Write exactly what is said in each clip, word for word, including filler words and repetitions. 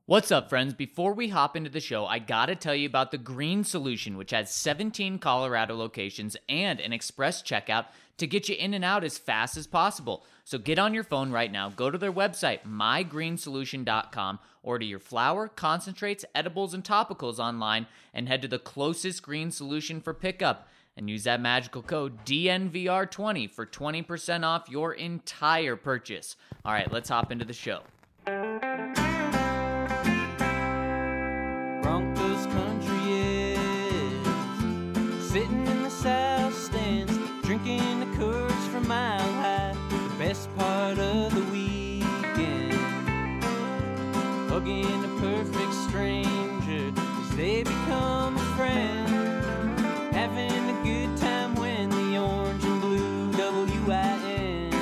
What's up, friends? Before we hop into the show, I gotta tell you about the Green Solution, which has seventeen Colorado locations and an express checkout to get you in and out as fast as possible. So get on your phone right now, go to their website, my green solution dot com, order your flour, concentrates, edibles, and topicals online, and head to the closest Green Solution for pickup. And use that magical code D N V R twenty for twenty percent off your entire purchase. All right, let's hop into the show. Broncos country is sitting in the south stands, drinking the Coors from Mile High. The best part of the weekend, hugging a perfect stranger as they become a friend, having a good time when the orange and blue W I N,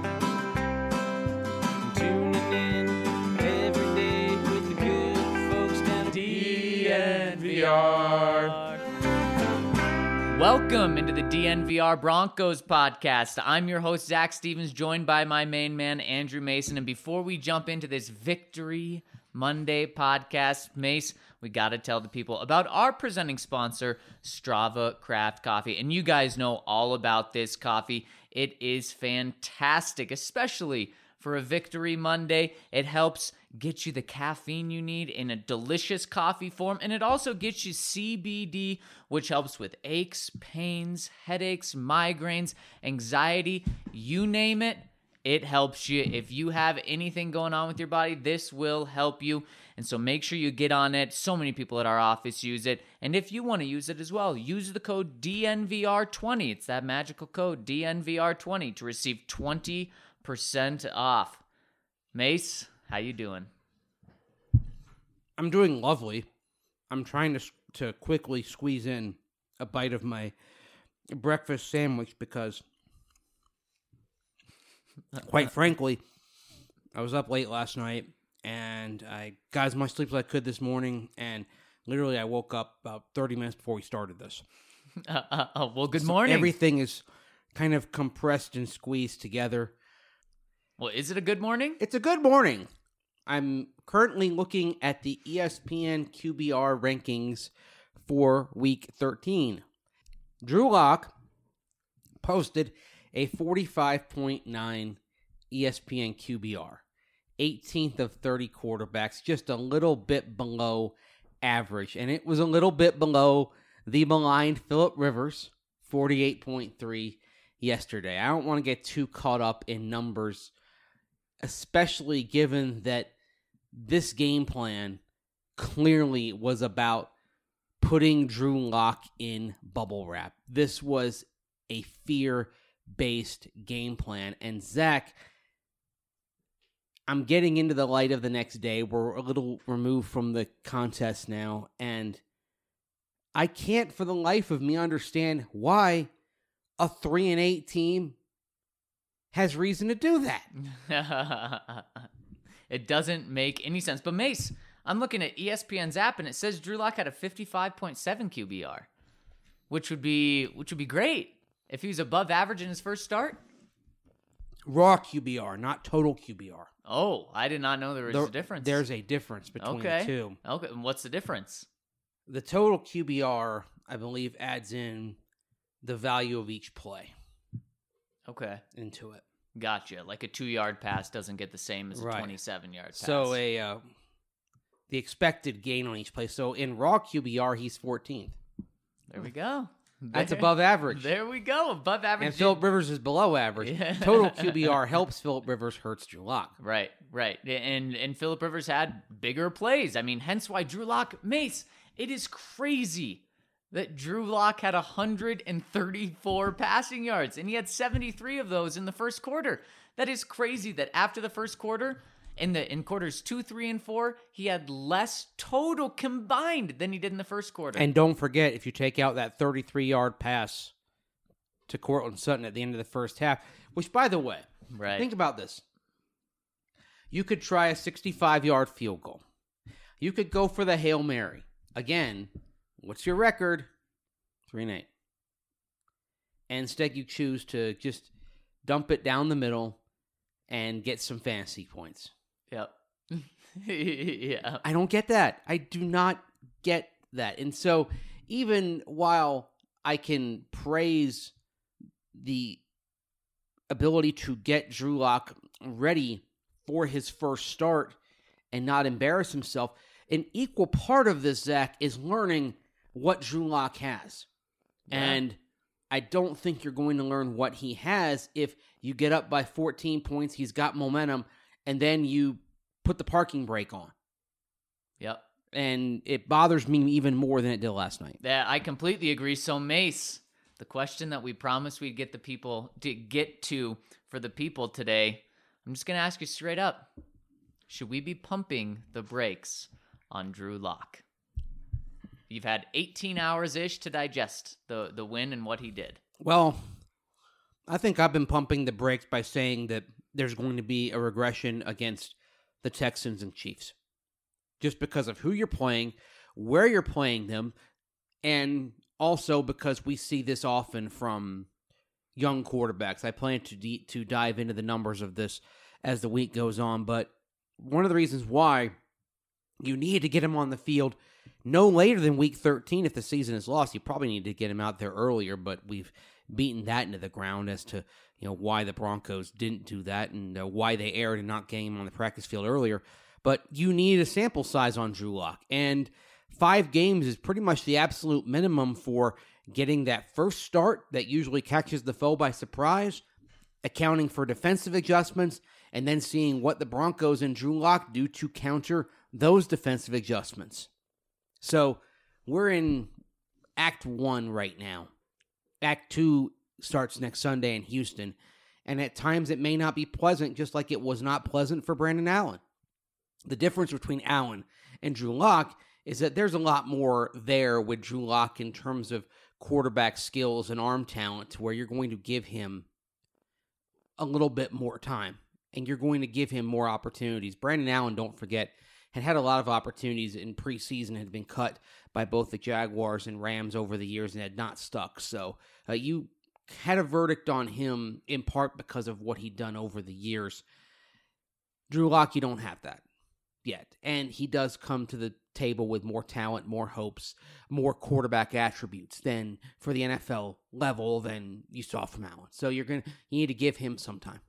tuning in every day with the good folks down at D N V R. Welcome into the D N V R Broncos podcast. I'm your host, Zach Stevens, joined by my main man, Andrew Mason. And before we jump into this Victory Monday podcast, Mace, we got to tell the people about our presenting sponsor, Strava Craft Coffee. And you guys know all about this coffee. It is fantastic, especially for a Victory Monday. It helps get you the caffeine you need in a delicious coffee form, and it also gets you C B D, which helps with aches, pains, headaches, migraines, anxiety, you name it. It helps you. If you have anything going on with your body, this will help you. And so make sure you get on it. So many people at our office use it. And if you want to use it as well, use the code D N V R twenty. It's that magical code D N V R twenty to receive twenty percent off. Mace, how you doing? I'm doing lovely. I'm trying to to quickly squeeze in a bite of my breakfast sandwich because, quite frankly, I was up late last night and I got as much sleep as I could this morning, and literally I woke up about thirty minutes before we started this. Uh, uh, uh, well, good So morning. everything is kind of compressed and squeezed together. Well, is it a good morning? It's a good morning. I'm currently looking at the E S P N Q B R rankings for Week thirteen. Drew Lock posted a forty-five point nine E S P N Q B R, eighteenth of thirty quarterbacks, just a little bit below average. And it was a little bit below the maligned Phillip Rivers, forty-eight point three yesterday. I don't want to get too caught up in numbers, especially given that this game plan clearly was about putting Drew Lock in bubble wrap. This was a fear-based game plan. And Zach, I'm getting into the light of the next day. We're a little removed from the contest now, and I can't for the life of me understand why a three and eight team has reason to do that. It doesn't make any sense. But Mace, I'm looking at E S P N's app and it says Drew Lock had a fifty-five point seven Q B R, which would be which would be great if he was above average in his first start. Raw Q B R, not total Q B R. Oh, I did not know there was there, a difference. There's a difference between okay. the two. Okay, and what's the difference? The total Q B R, I believe, adds in the value of each play. Okay. Into it. Gotcha. Like a two-yard pass doesn't get the same as a Right. twenty-seven-yard pass. So a uh, the expected gain on each play. So in raw Q B R, he's fourteenth. There we go. That's There- above average. There we go. Above average. And Phillip Rivers is below average. Yeah. Total Q B R helps Phillip Rivers, hurts Drew Lock. Right, right. And and Phillip Rivers had bigger plays. I mean, hence why Drew Lock, Mace, it is crazy that Drew Lock had one hundred thirty-four passing yards, and he had seventy-three of those in the first quarter. That is crazy that after the first quarter, in the in quarters two, three, and four, he had less total combined than he did in the first quarter. And don't forget, if you take out that thirty-three-yard pass to Courtland Sutton at the end of the first half, which, by the way, right. think about this. You could try a sixty-five-yard field goal. You could go for the Hail Mary. Again, what's your record? Three and eight. And instead you choose to just dump it down the middle and get some fantasy points. Yep. yeah. I don't get that. I do not get that. And so even while I can praise the ability to get Drew Lock ready for his first start and not embarrass himself, an equal part of this, Zach, is learning what Drew Lock has. Yeah. And I don't think you're going to learn what he has if you get up by fourteen points, he's got momentum, and then you put the parking brake on. Yep. And it bothers me even more than it did last night. Yeah, I completely agree. So, Mace, the question that we promised we'd get the people to get to for the people today, I'm just going to ask you straight up. Should we be pumping the brakes on Drew Lock? You've had eighteen hours-ish to digest the, the win and what he did. Well, I think I've been pumping the brakes by saying that there's going to be a regression against the Texans and Chiefs. Just because of who you're playing, where you're playing them, and also because we see this often from young quarterbacks. I plan to de- to dive into the numbers of this as the week goes on, but one of the reasons why you need to get him on the field no later than week thirteen if the season is lost. You probably need to get him out there earlier, but we've beaten that into the ground as to you know why the Broncos didn't do that and uh, why they erred in not getting him on the practice field earlier. But you need a sample size on Drew Lock, and five games is pretty much the absolute minimum for getting that first start that usually catches the foe by surprise, accounting for defensive adjustments, and then seeing what the Broncos and Drew Lock do to counter those defensive adjustments. So we're in Act one right now. Act two starts next Sunday in Houston, and at times it may not be pleasant, just like it was not pleasant for Brandon Allen. The difference between Allen and Drew Lock is that there's a lot more there with Drew Lock in terms of quarterback skills and arm talent, where you're going to give him a little bit more time, and you're going to give him more opportunities. Brandon Allen, don't forget, had had a lot of opportunities in preseason, had been cut by both the Jaguars and Rams over the years and had not stuck. So uh, you had a verdict on him in part because of what he'd done over the years. Drew Lock, you don't have that yet. And he does come to the table with more talent, more hopes, more quarterback attributes than for the N F L level than you saw from Allen. So you're going to you need to give him some time.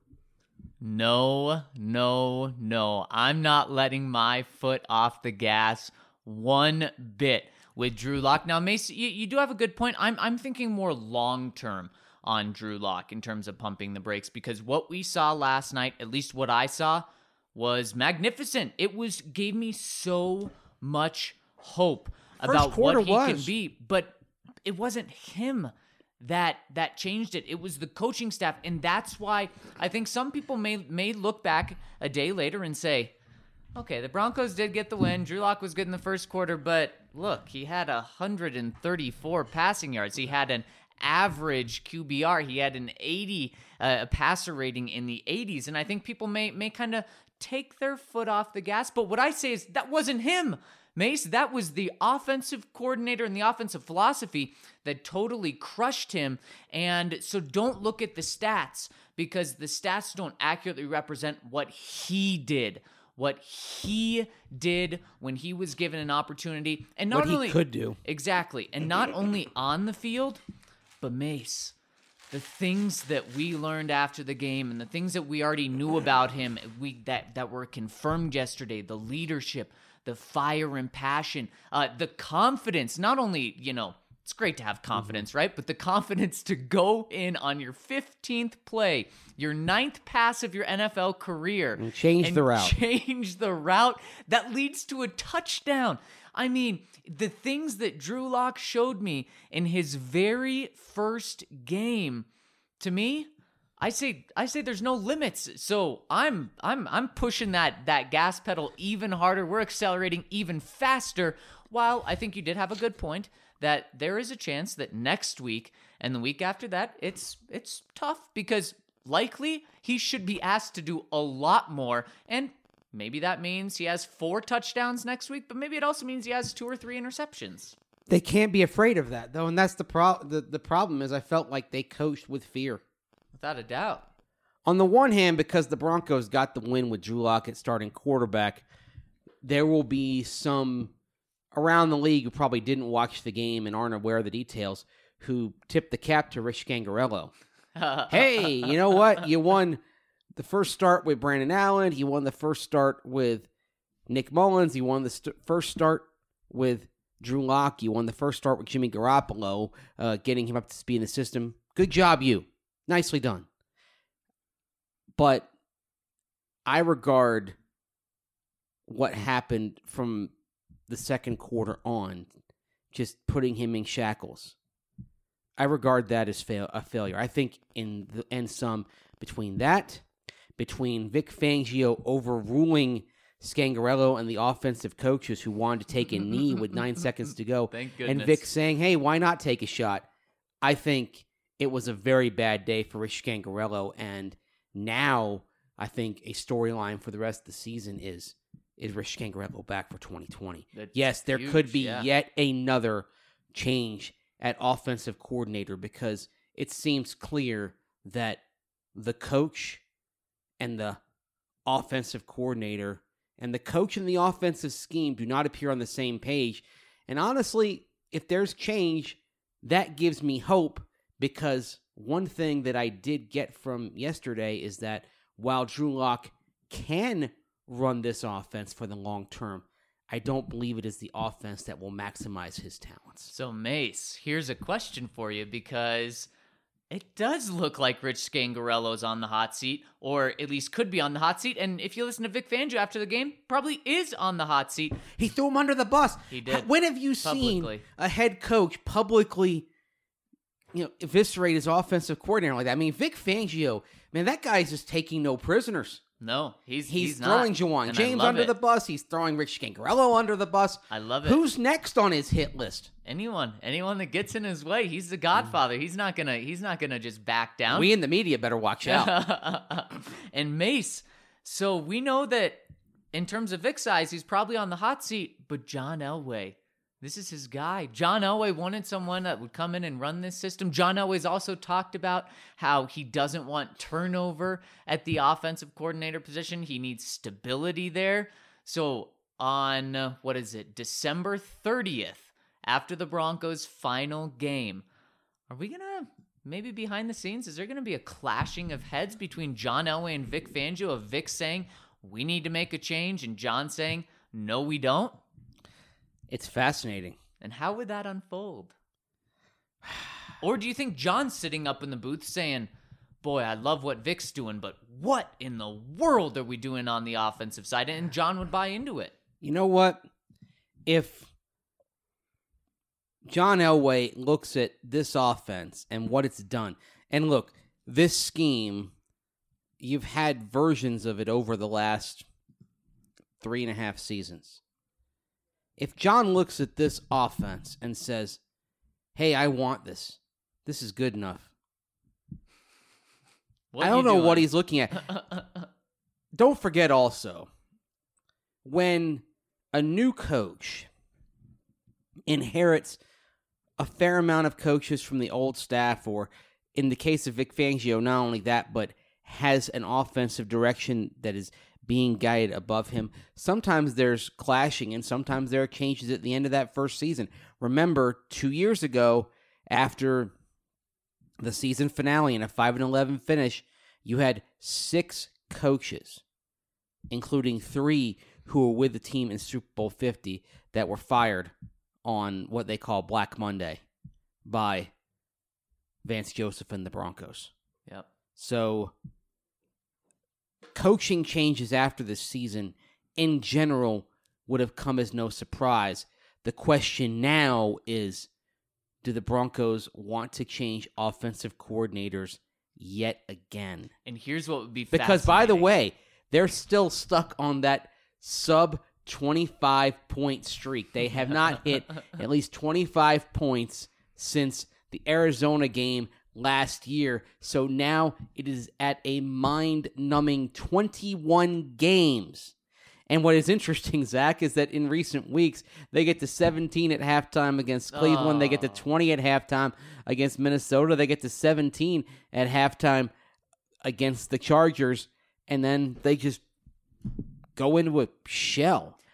No, no, no. I'm not letting my foot off the gas one bit with Drew Lock. Now, Mace, you, you do have a good point. I'm I'm thinking more long-term on Drew Lock in terms of pumping the brakes, because what we saw last night, at least what I saw, was magnificent. It was gave me so much hope First about what he was. can be, but it wasn't him that that changed it. It was the coaching staff, and that's why I think some people may may look back a day later and say, okay, the Broncos did get the win. Drew Lock was good in the first quarter, but look, he had one hundred thirty-four passing yards. He had an average Q B R. He had an eighty uh, passer rating in the eighties, and I think people may may kind of take their foot off the gas. But what I say is that wasn't him, Mace. That was the offensive coordinator and the offensive philosophy that totally crushed him. And so don't look at the stats, because the stats don't accurately represent what he did. What he did when he was given an opportunity. And not what he only could do. Exactly. And not only on the field, but Mace, the things that we learned after the game and the things that we already knew about him, we that, that were confirmed yesterday, the leadership, the fire and passion, uh, the confidence, not only, you know, it's great to have confidence, mm-hmm. right? But the confidence to go in on your fifteenth play, your ninth pass of your N F L career. And change and the route. Change the route that leads to a touchdown. I mean, the things that Drew Lock showed me in his very first game, to me, I say I say there's no limits. So I'm I'm I'm pushing that that gas pedal even harder. We're accelerating even faster. While I think you did have a good point that there is a chance that next week and the week after that, it's it's tough, because likely he should be asked to do a lot more. And maybe that means he has four touchdowns next week, but maybe it also means he has two or three interceptions. They can't be afraid of that, though, and that's the pro- the, the problem is I felt like they coached with fear. Without a doubt. On the one hand, because the Broncos got the win with Drew Lock at starting quarterback, there will be some around the league who probably didn't watch the game and aren't aware of the details who tipped the cap to Rich Scangarello. Hey, you know what? You won the first start with Brandon Allen. You won the first start with Nick Mullins. You won the st- first start with Drew Lock. You won the first start with Jimmy Garoppolo, uh, getting him up to speed in the system. Good job, you. Nicely done. But I regard what happened from the second quarter on, just putting him in shackles. I regard that as fail- a failure. I think in the end sum, between that, between Vic Fangio overruling Scangarello and the offensive coaches who wanted to take a knee with nine seconds to go, Thank goodness. and Vic saying, hey, why not take a shot? I think it was a very bad day for Rich Scangarello, and now I think a storyline for the rest of the season is, is Rich Scangarello back for twenty twenty? That's yes, there huge, could be yeah. yet another change at offensive coordinator because it seems clear that the coach and the offensive coordinator and the coach and the offensive scheme do not appear on the same page. And honestly, if there's change, that gives me hope because one thing that I did get from yesterday is that while Drew Lock can run this offense for the long term, I don't believe it is the offense that will maximize his talents. So, Mace, here's a question for you because it does look like Rich Scangarello's on the hot seat, or at least could be on the hot seat. And if you listen to Vic Fangio after the game, probably is on the hot seat. He threw him under the bus. He did. When have you Publicly. seen a head coach publicly, you know, eviscerate his offensive coordinator like that? I mean, Vic Fangio, man, that guy's just taking no prisoners. No, he's He's, he's throwing not. Jawan And I James love under it. the bus. He's throwing Rich Scangarello under the bus. I love it. Who's next on his hit list? Anyone, anyone that gets in his way, he's the Godfather. He's not gonna, he's not gonna just back down. We in the media better watch out. And Mace, so we know that in terms of Vic size, he's probably on the hot seat. But John Elway, this is his guy. John Elway wanted someone that would come in and run this system. John Elway's also talked about how he doesn't want turnover at the offensive coordinator position. He needs stability there. So on, uh, what is it, December thirtieth, after the Broncos' final game, are we going to, maybe behind the scenes, is there going to be a clashing of heads between John Elway and Vic Fangio, of Vic saying, we need to make a change, and John saying, no, we don't? It's fascinating. And how would that unfold? Or do you think John's sitting up in the booth saying, boy, I love what Vic's doing, but what in the world are we doing on the offensive side? And John would buy into it. You know what? If John Elway looks at this offense and what it's done, and look, this scheme, you've had versions of it over the last three and a half seasons. If John looks at this offense and says, hey, I want this, this is good enough. What I are don't you know doing? what he's looking at. Don't forget also, when a new coach inherits a fair amount of coaches from the old staff, or in the case of Vic Fangio, not only that, but has an offensive direction that is being guided above him, sometimes there's clashing and sometimes there are changes at the end of that first season. Remember, two years ago, after the season finale and a five and eleven finish, you had six coaches, including three who were with the team in Super Bowl fifty, that were fired on what they call Black Monday by Vance Joseph and the Broncos. Yep. So coaching changes after this season in general would have come as no surprise. The question now is, do the Broncos want to change offensive coordinators yet again? And here's what would be Because, by the fascinating. way, they're still stuck on that sub twenty-five point streak. They have not hit at least twenty-five points since the Arizona game last year. So now it is at a mind-numbing twenty-one games. And what is interesting, Zach, is that in recent weeks, they get to seventeen at halftime against Cleveland. Oh. They get to twenty at halftime against Minnesota. They get to seventeen at halftime against the Chargers. And then they just go into a shell.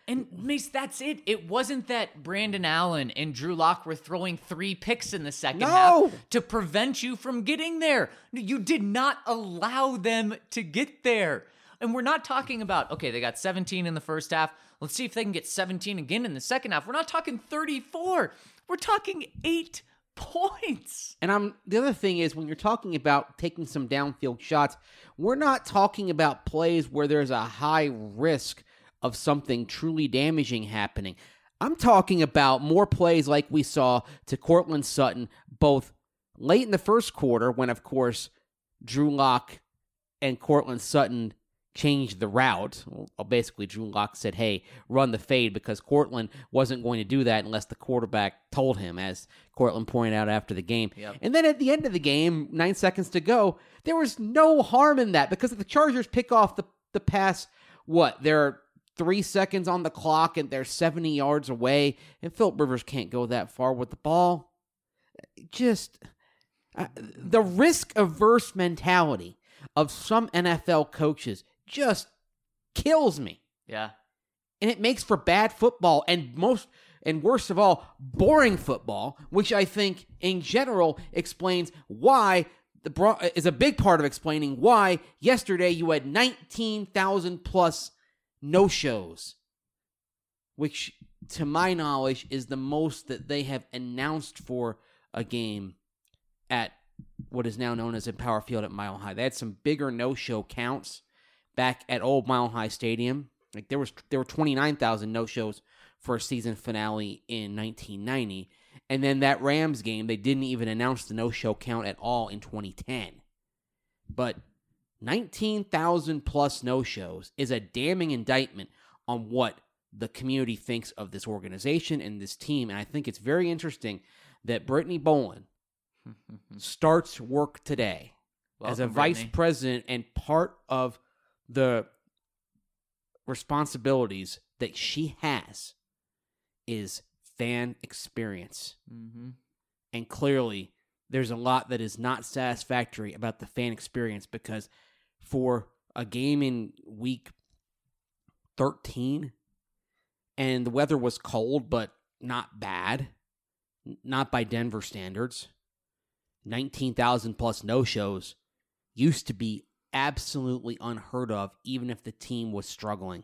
And Mace, that's it. It wasn't that Brandon Allen and Drew Lock were throwing three picks in the second No! half to prevent you from getting there. You did not allow them to get there. And we're not talking about, okay, they got seventeen in the first half. Let's see if they can get seventeen again in the second half. We're not talking thirty-four. We're talking eight points. And I'm the other thing is when you're talking about taking some downfield shots, we're not talking about plays where there's a high risk of something truly damaging happening. I'm talking about more plays like we saw to Courtland Sutton, both late in the first quarter when, of course, Drew Lock and Courtland Sutton changed the route. Well, basically, Drew Lock said, hey, run the fade, because Courtland wasn't going to do that unless the quarterback told him, as Courtland pointed out after the game. Yep. And then at the end of the game, nine seconds to go, there was no harm in that, because if the Chargers pick off the, the pass, what, they're three seconds on the clock and they're seventy yards away, and Philip Rivers can't go that far with the ball. Just uh, the risk-averse mentality of some N F L coaches just kills me. Yeah. And it makes for bad football, and most, and worst of all, boring football, which I think in general explains why the Bron- is a big part of explaining why yesterday you had nineteen thousand plus no-shows, which to my knowledge is the most that they have announced for a game at what is now known as Empower Field at Mile High. They had some bigger no-show counts back at old Mile High Stadium. Like there was there were twenty-nine thousand no-shows for a season finale in nineteen ninety. And then that Rams game, they didn't even announce the no-show count at all in twenty ten. But nineteen thousand plus no-shows is a damning indictment on what the community thinks of this organization and this team. And I think it's very interesting that Brittany Bolin starts work today Welcome, as a Brittany. vice president, and part of the responsibilities that she has is fan experience. Mm-hmm. And clearly, there's a lot that is not satisfactory about the fan experience, because for a game in week thirteen, and the weather was cold, but not bad, not by Denver standards, nineteen thousand plus no-shows used to be absolutely unheard of, even if the team was struggling.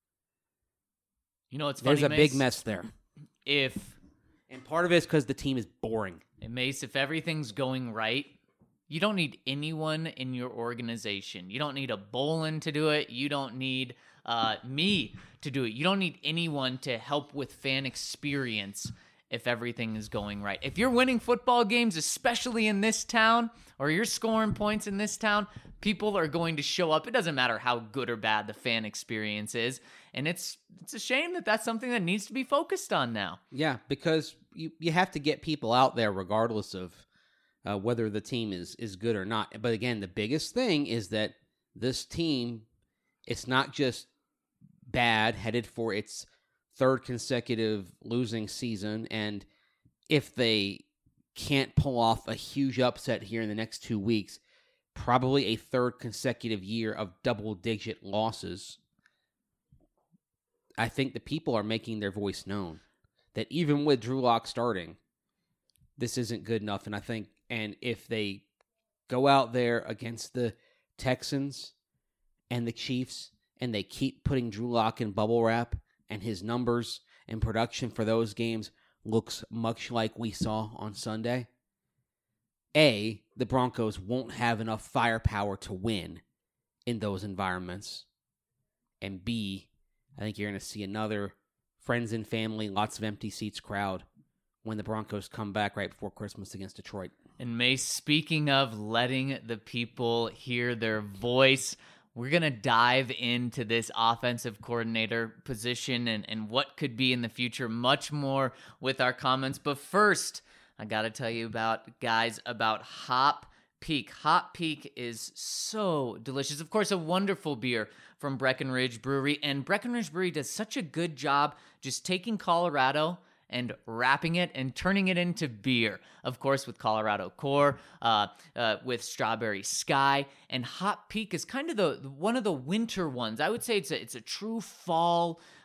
You know what's funny, There's a Mace? big mess there. If, And part of it is because the team is boring. and Mace, if everything's going right, you don't need anyone in your organization. You don't need a Bolin to do it. You don't need uh, me to do it. You don't need anyone to help with fan experience if everything is going right. If you're winning football games, especially in this town, or you're scoring points in this town, people are going to show up. It doesn't matter how good or bad the fan experience is. And it's it's a shame that that's something that needs to be focused on now. Yeah, because you, you have to get people out there regardless of uh, whether the team is, is good or not. But again, the biggest thing is that this team, it's not just bad, headed for its third consecutive losing season, and if they can't pull off a huge upset here in the next two weeks, probably a third consecutive year of double-digit losses. I think the people are making their voice known, that even with Drew Lock starting, this isn't good enough. And I think, and if they go out there against the Texans and the Chiefs, and they keep putting Drew Lock in bubble wrap, and his numbers and production for those games looks much like we saw on Sunday, A, the Broncos won't have enough firepower to win in those environments, and B, I think you're going to see another friends and family, lots of empty seats crowd when the Broncos come back right before Christmas against Detroit. And Mace, speaking of letting the people hear their voice, we're going to dive into this offensive coordinator position and, and what could be in the future much more with our comments. But first, I got to tell you about, guys, about Hop Peak. Hop Peak is so delicious. Of course, a wonderful beer from Breckenridge Brewery. And Breckenridge Brewery does such a good job just taking Colorado and wrapping it and turning it into beer. Of course, with Colorado Core, uh, uh, with Strawberry Sky, and Hop Peak is kind of the one of the winter ones. I would say it's a, it's a true fall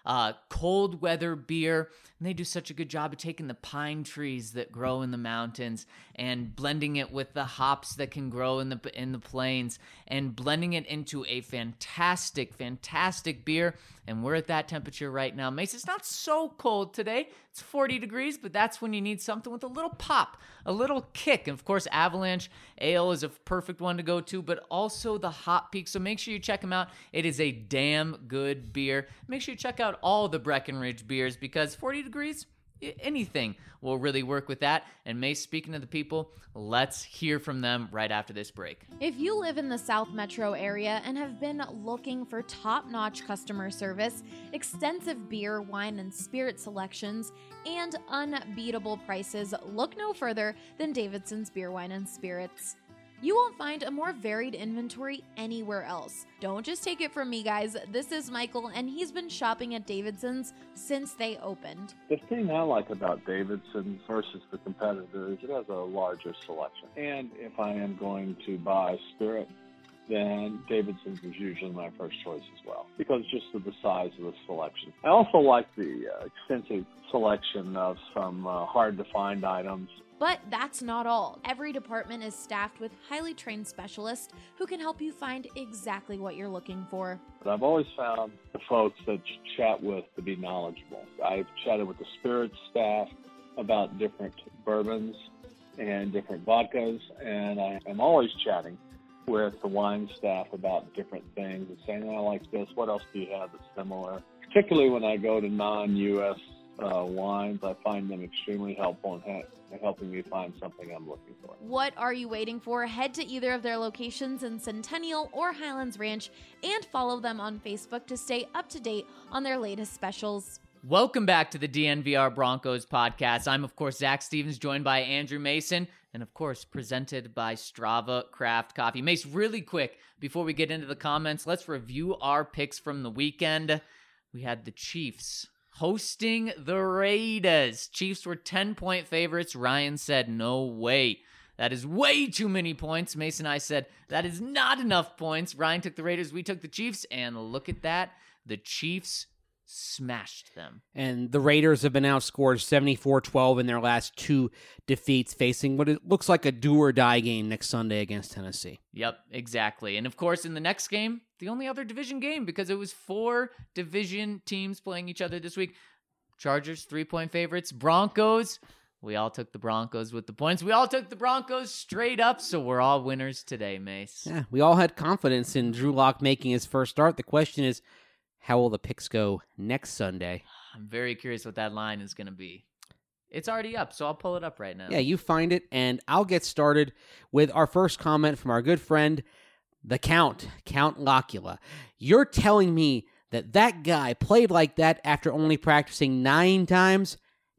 uh, cold weather beer. And they do such a good job of taking the pine trees that grow in the mountains and blending it with the hops that can grow in the in the plains and blending it into a fantastic, fantastic beer. And we're at that temperature right now. Mace, it's not so cold today. It's forty degrees, but that's when you need something with a little pop, a little kick. And of course, Avalanche Ale is a perfect one to go to, but also the Hop Peak. So make sure you check them out. It is a damn good beer. Make sure you check out all the Breckenridge beers because forty degrees, anything will really work with that. And Mace, speaking to the people, let's hear from them right after this break. If you live in the South Metro area and have been looking for top-notch customer service, extensive beer, wine, and spirit selections, and unbeatable prices, look no further than Davidson's Beer, Wine, and Spirits. You won't find a more varied inventory anywhere else. Don't just take it from me, guys. This is Michael, and he's been shopping at Davidson's since they opened. The thing I like about Davidson's versus the competitor is it has a larger selection. And if I am going to buy spirit, then Davidson's is usually my first choice as well, because just of the size of the selection. I also like the uh, extensive selection of some uh, hard-to-find items. But that's not all. Every department is staffed with highly trained specialists who can help you find exactly what you're looking for. But I've always found the folks that you chat with to be knowledgeable. I've chatted with the spirits staff about different bourbons and different vodkas, and I am always chatting with the wine staff about different things and saying, oh, I like this, what else do you have that's similar? Particularly when I go to non-U S uh, wines, I find them extremely helpful in ha- helping me find something I'm looking for. What are you waiting for? Head to either of their locations in Centennial or Highlands Ranch and follow them on Facebook to stay up to date on their latest specials. Welcome back to the D N V R Broncos podcast. I'm, of course, Zach Stevens, joined by Andrew Mason, and, of course, presented by Strava Craft Coffee. Mace, really quick, before we get into the comments, let's review our picks from the weekend. We had the Chiefs hosting the Raiders. Chiefs were ten-point favorites. Ryan said, no way. That is way too many points. Mason and I said, that is not enough points. Ryan took the Raiders, we took the Chiefs, and look at that. The Chiefs smashed them. And the Raiders have been outscored seventy-four twelve in their last two defeats, facing what it looks like a do-or-die game next Sunday against Tennessee. Yep, exactly. And of course, in the next game, the only other division game, because it was four division teams playing each other this week. Chargers, three-point favorites. Broncos, we all took the Broncos with the points. We all took the Broncos straight up, so we're all winners today, Mace. Yeah, we all had confidence in Drew Lock making his first start. The question is, how will the picks go next Sunday? I'm very curious what that line is going to be. It's already up, so I'll pull it up right now. Yeah, you find it, and I'll get started with our first comment from our good friend, the Count, Count Locula. You're telling me that that guy played like that after only practicing nine times?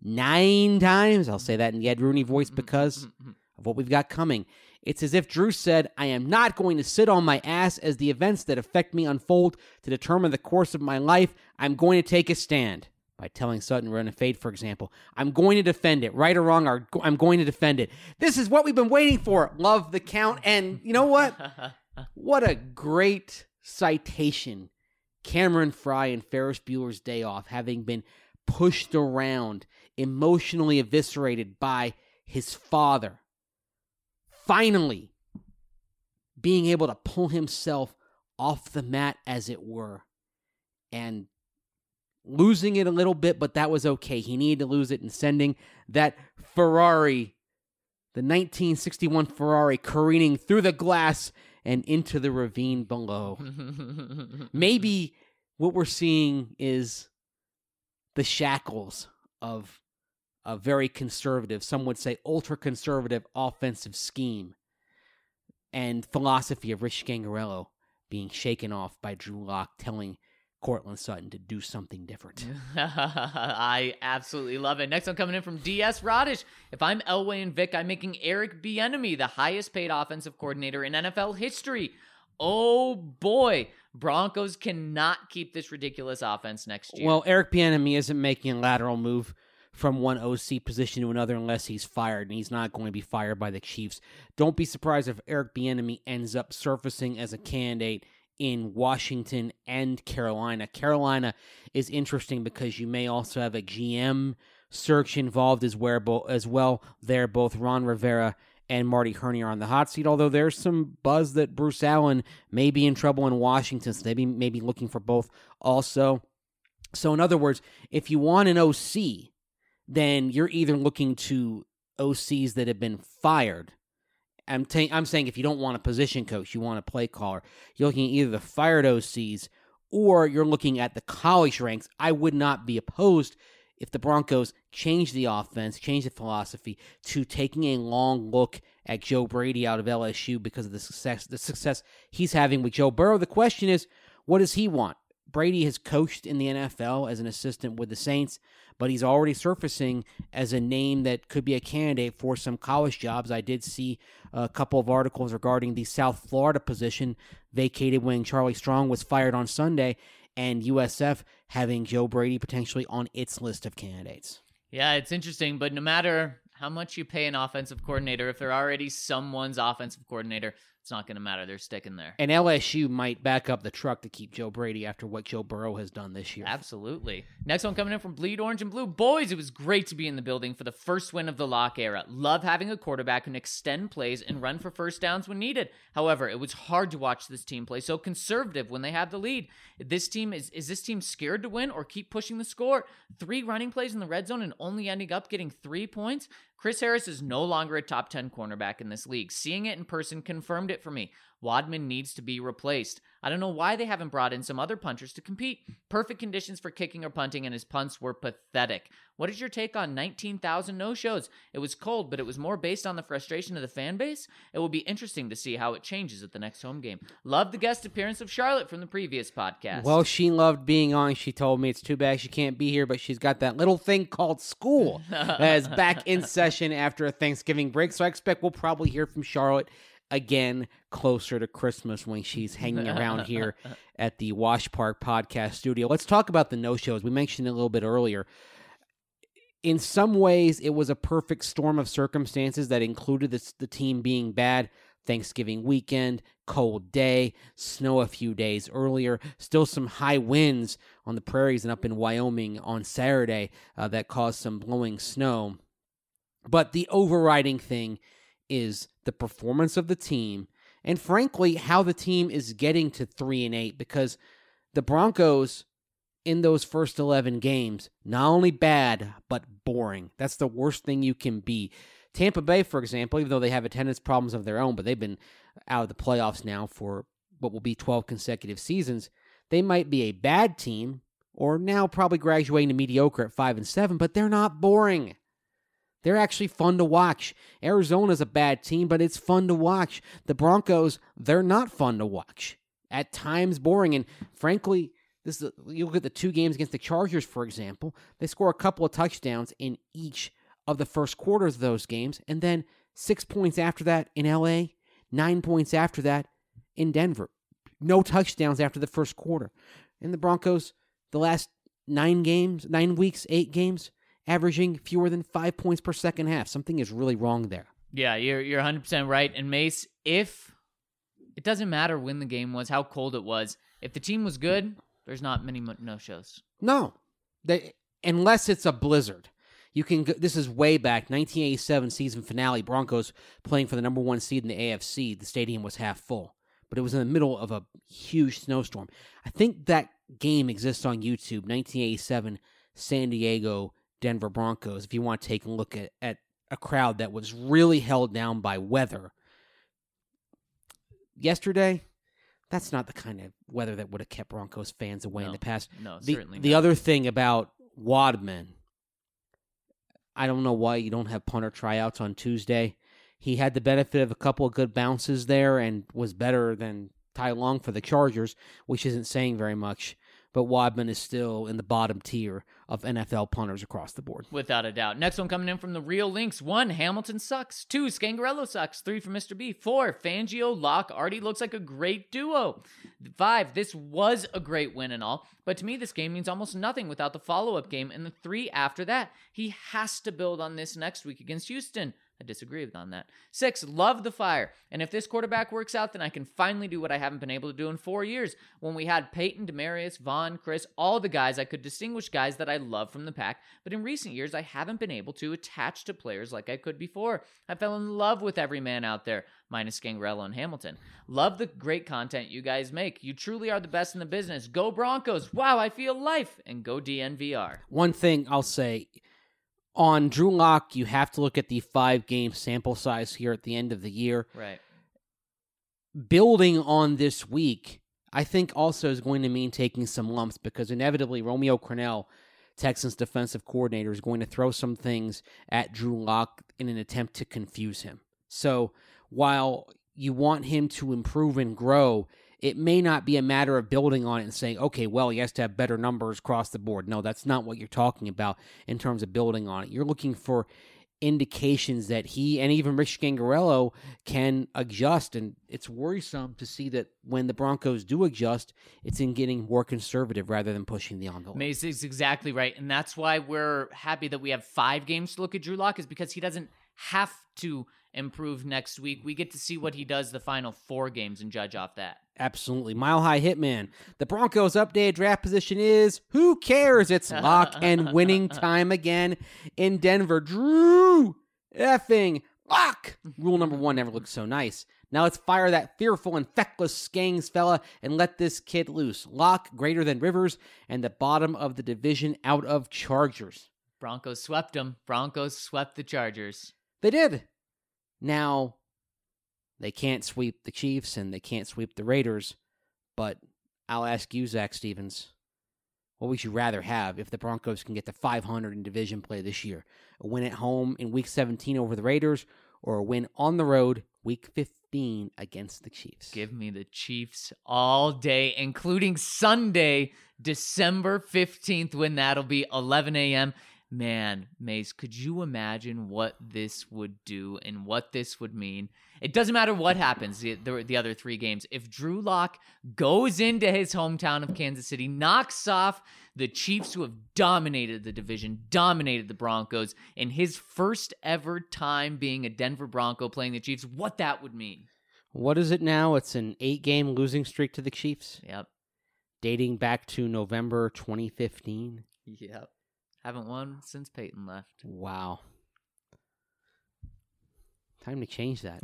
Nine times? I'll say that in the Ed Rooney voice because of what we've got coming. It's as if Drew said, I am not going to sit on my ass as the events that affect me unfold to determine the course of my life. I'm going to take a stand. By telling Sutton run a fade, for example. I'm going to defend it. Right or wrong, I'm going to defend it. This is what we've been waiting for. Love the Count. And you know what? What a great citation. Cameron Fry and Ferris Bueller's Day Off, having been pushed around, emotionally eviscerated by his father. Finally, being able to pull himself off the mat, as it were, and losing it a little bit, but that was okay. He needed to lose it, and sending that Ferrari, the nineteen sixty-one Ferrari, careening through the glass and into the ravine below. Maybe what we're seeing is the shackles of a very conservative, some would say ultra-conservative offensive scheme and philosophy of Rich Gangarello being shaken off by Drew Lock telling Cortland Sutton to do something different. I absolutely love it. Next one coming in from D S Radish. If I'm Elway and Vic, I'm making Eric Bieniemy the highest paid offensive coordinator in N F L history. Oh boy, Broncos cannot keep this ridiculous offense next year. Well, Eric Bieniemy isn't making a lateral move from one O C position to another unless he's fired, and he's not going to be fired by the Chiefs. Don't be surprised if Eric Bieniemy ends up surfacing as a candidate in Washington and Carolina. Carolina is interesting because you may also have a G M search involved as well. As well, there both Ron Rivera and Marty Herney are on the hot seat. Although there's some buzz that Bruce Allen may be in trouble in Washington, so they be maybe looking for both also. So in other words, if you want an O C, then you're either looking to O Cs that have been fired. I'm, t- I'm saying if you don't want a position coach, you want a play caller, you're looking at either the fired O Cs or you're looking at the college ranks. I would not be opposed if the Broncos change the offense, change the philosophy to taking a long look at Joe Brady out of L S U because of the success, the success he's having with Joe Burrow. The question is, what does he want? Brady has coached in the N F L as an assistant with the Saints, but he's already surfacing as a name that could be a candidate for some college jobs. I did see a couple of articles regarding the South Florida position vacated when Charlie Strong was fired on Sunday, and U S F having Joe Brady potentially on its list of candidates. Yeah, it's interesting, but no matter how much you pay an offensive coordinator, if they're already someone's offensive coordinator, it's not going to matter. They're sticking there. And L S U might back up the truck to keep Joe Brady after what Joe Burrow has done this year. Absolutely. Next one coming in from Bleed Orange and Blue. Boys, it was great to be in the building for the first win of the Lock era. Love having a quarterback who can extend plays and run for first downs when needed. However, it was hard to watch this team play so conservative when they had the lead. This team is is this team scared to win or keep pushing the score? Three running plays in the red zone and only ending up getting three points? Chris Harris is no longer a top ten cornerback in this league. Seeing it in person confirmed it for me. Wadman needs to be replaced. I don't know why they haven't brought in some other punchers to compete. Perfect conditions for kicking or punting, and his punts were pathetic. What is your take on nineteen thousand no-shows? It was cold, but it was more based on the frustration of the fan base. It will be interesting to see how it changes at the next home game. Love the guest appearance of Charlotte from the previous podcast. Well, she loved being on. She told me it's too bad she can't be here, but she's got that little thing called school that is back in session after a Thanksgiving break. So I expect we'll probably hear from Charlotte again closer to Christmas when she's hanging around here at the Wash Park Podcast Studio. Let's talk about the no-shows. We mentioned it a little bit earlier. In some ways, it was a perfect storm of circumstances that included this, the team being bad. Thanksgiving weekend, cold day, snow a few days earlier, still some high winds on the prairies and up in Wyoming on Saturday uh, that caused some blowing snow. But the overriding thing is the performance of the team and, frankly, how the team is getting to three and eight, because the Broncos in those first eleven games, not only bad, but boring. That's the worst thing you can be. Tampa Bay, for example, even though they have attendance problems of their own, but they've been out of the playoffs now for what will be twelve consecutive seasons, they might be a bad team, or now probably graduating to mediocre at five and seven, but they're not boring. They're actually fun to watch. Arizona's a bad team, but it's fun to watch. The Broncos, they're not fun to watch. At times boring, and frankly, this is, you look at the two games against the Chargers, for example, they score a couple of touchdowns in each of the first quarters of those games, and then six points after that in L A, nine points after that in Denver. No touchdowns after the first quarter. And the Broncos, the last nine games, nine weeks, eight games, averaging fewer than five points per second half. Something is really wrong there. Yeah, you're you're one hundred percent right. And Mace, if it doesn't matter when the game was, how cold it was, if the team was good, there's not many no-shows. No, they, unless it's a blizzard. You can. Go, this is way back, nineteen eighty-seven season finale. Broncos playing for the number one seed in the A F C. The stadium was half full, but it was in the middle of a huge snowstorm. I think that game exists on YouTube. nineteen eighty-seven San Diego Denver Broncos. If you want to take a look at, at a crowd that was really held down by weather. Yesterday, that's not the kind of weather that would have kept Broncos fans away no, in the past. No, the, certainly The not. other thing about Wadman, I don't know why you don't have punter tryouts on Tuesday. He had the benefit of a couple of good bounces there and was better than Ty Long for the Chargers, which isn't saying very much. But Wadman is still in the bottom tier of N F L punters across the board. Without a doubt. Next one coming in from the Real Links. One, Hamilton sucks. Two, Scangarello sucks. Three for Mister B. Four, Fangio, Locke, Artie looks like a great duo. Five, this was a great win and all, but to me this game means almost nothing without the follow-up game and the three after that. He has to build on this next week against Houston. I disagree with on that. Six, love the fire. And if this quarterback works out, then I can finally do what I haven't been able to do in four years. When we had Peyton, Demarius, Vaughn, Chris, all the guys, I could distinguish guys that I love from the pack. But in recent years, I haven't been able to attach to players like I could before. I fell in love with every man out there, minus Gangrello and Hamilton. Love the great content you guys make. You truly are the best in the business. Go Broncos. Wow, I feel life. And go D N V R. One thing I'll say, on Drew Lock, you have to look at the five-game sample size here at the end of the year. Right. Building on this week, I think also is going to mean taking some lumps because inevitably Romeo Crennel, Texans defensive coordinator, is going to throw some things at Drew Lock in an attempt to confuse him. So while you want him to improve and grow, it may not be a matter of building on it and saying, okay, well, he has to have better numbers across the board. No, that's not what you're talking about in terms of building on it. You're looking for indications that he and even Rich Gangrello can adjust, and it's worrisome to see that when the Broncos do adjust, it's in getting more conservative rather than pushing the envelope. Mace is exactly right, and that's why we're happy that we have five games to look at Drew Lock, is because he doesn't have to improve next week. We get to see what he does the final four games and judge off that. Absolutely. Mile High Hitman. The Broncos' updated draft position is, who cares? It's lock and winning time again in Denver. Drew effing Lock. Rule number one never looks so nice. Now let's fire that fearful and feckless Skangs fella and let this kid loose. Lock greater than Rivers and the bottom of the division out of Chargers. Broncos swept them. Broncos swept the Chargers. They did. Now, they can't sweep the Chiefs and they can't sweep the Raiders, but I'll ask you, Zach Stevens, what would you rather have if the Broncos can get to five hundred in division play this year? A win at home in Week seventeen over the Raiders, or a win on the road Week fifteen against the Chiefs? Give me the Chiefs all day, including Sunday, December fifteenth, when that'll be eleven a.m. Man, Mace, could you imagine what this would do and what this would mean? It doesn't matter what happens the, the, the other three games. If Drew Lock goes into his hometown of Kansas City, knocks off the Chiefs who have dominated the division, dominated the Broncos, in his first ever time being a Denver Bronco playing the Chiefs, what that would mean. What is it now? It's an eight-game losing streak to the Chiefs? Yep. Dating back to November twenty fifteen? Yep. Haven't won since Peyton left. Wow. Time to change that.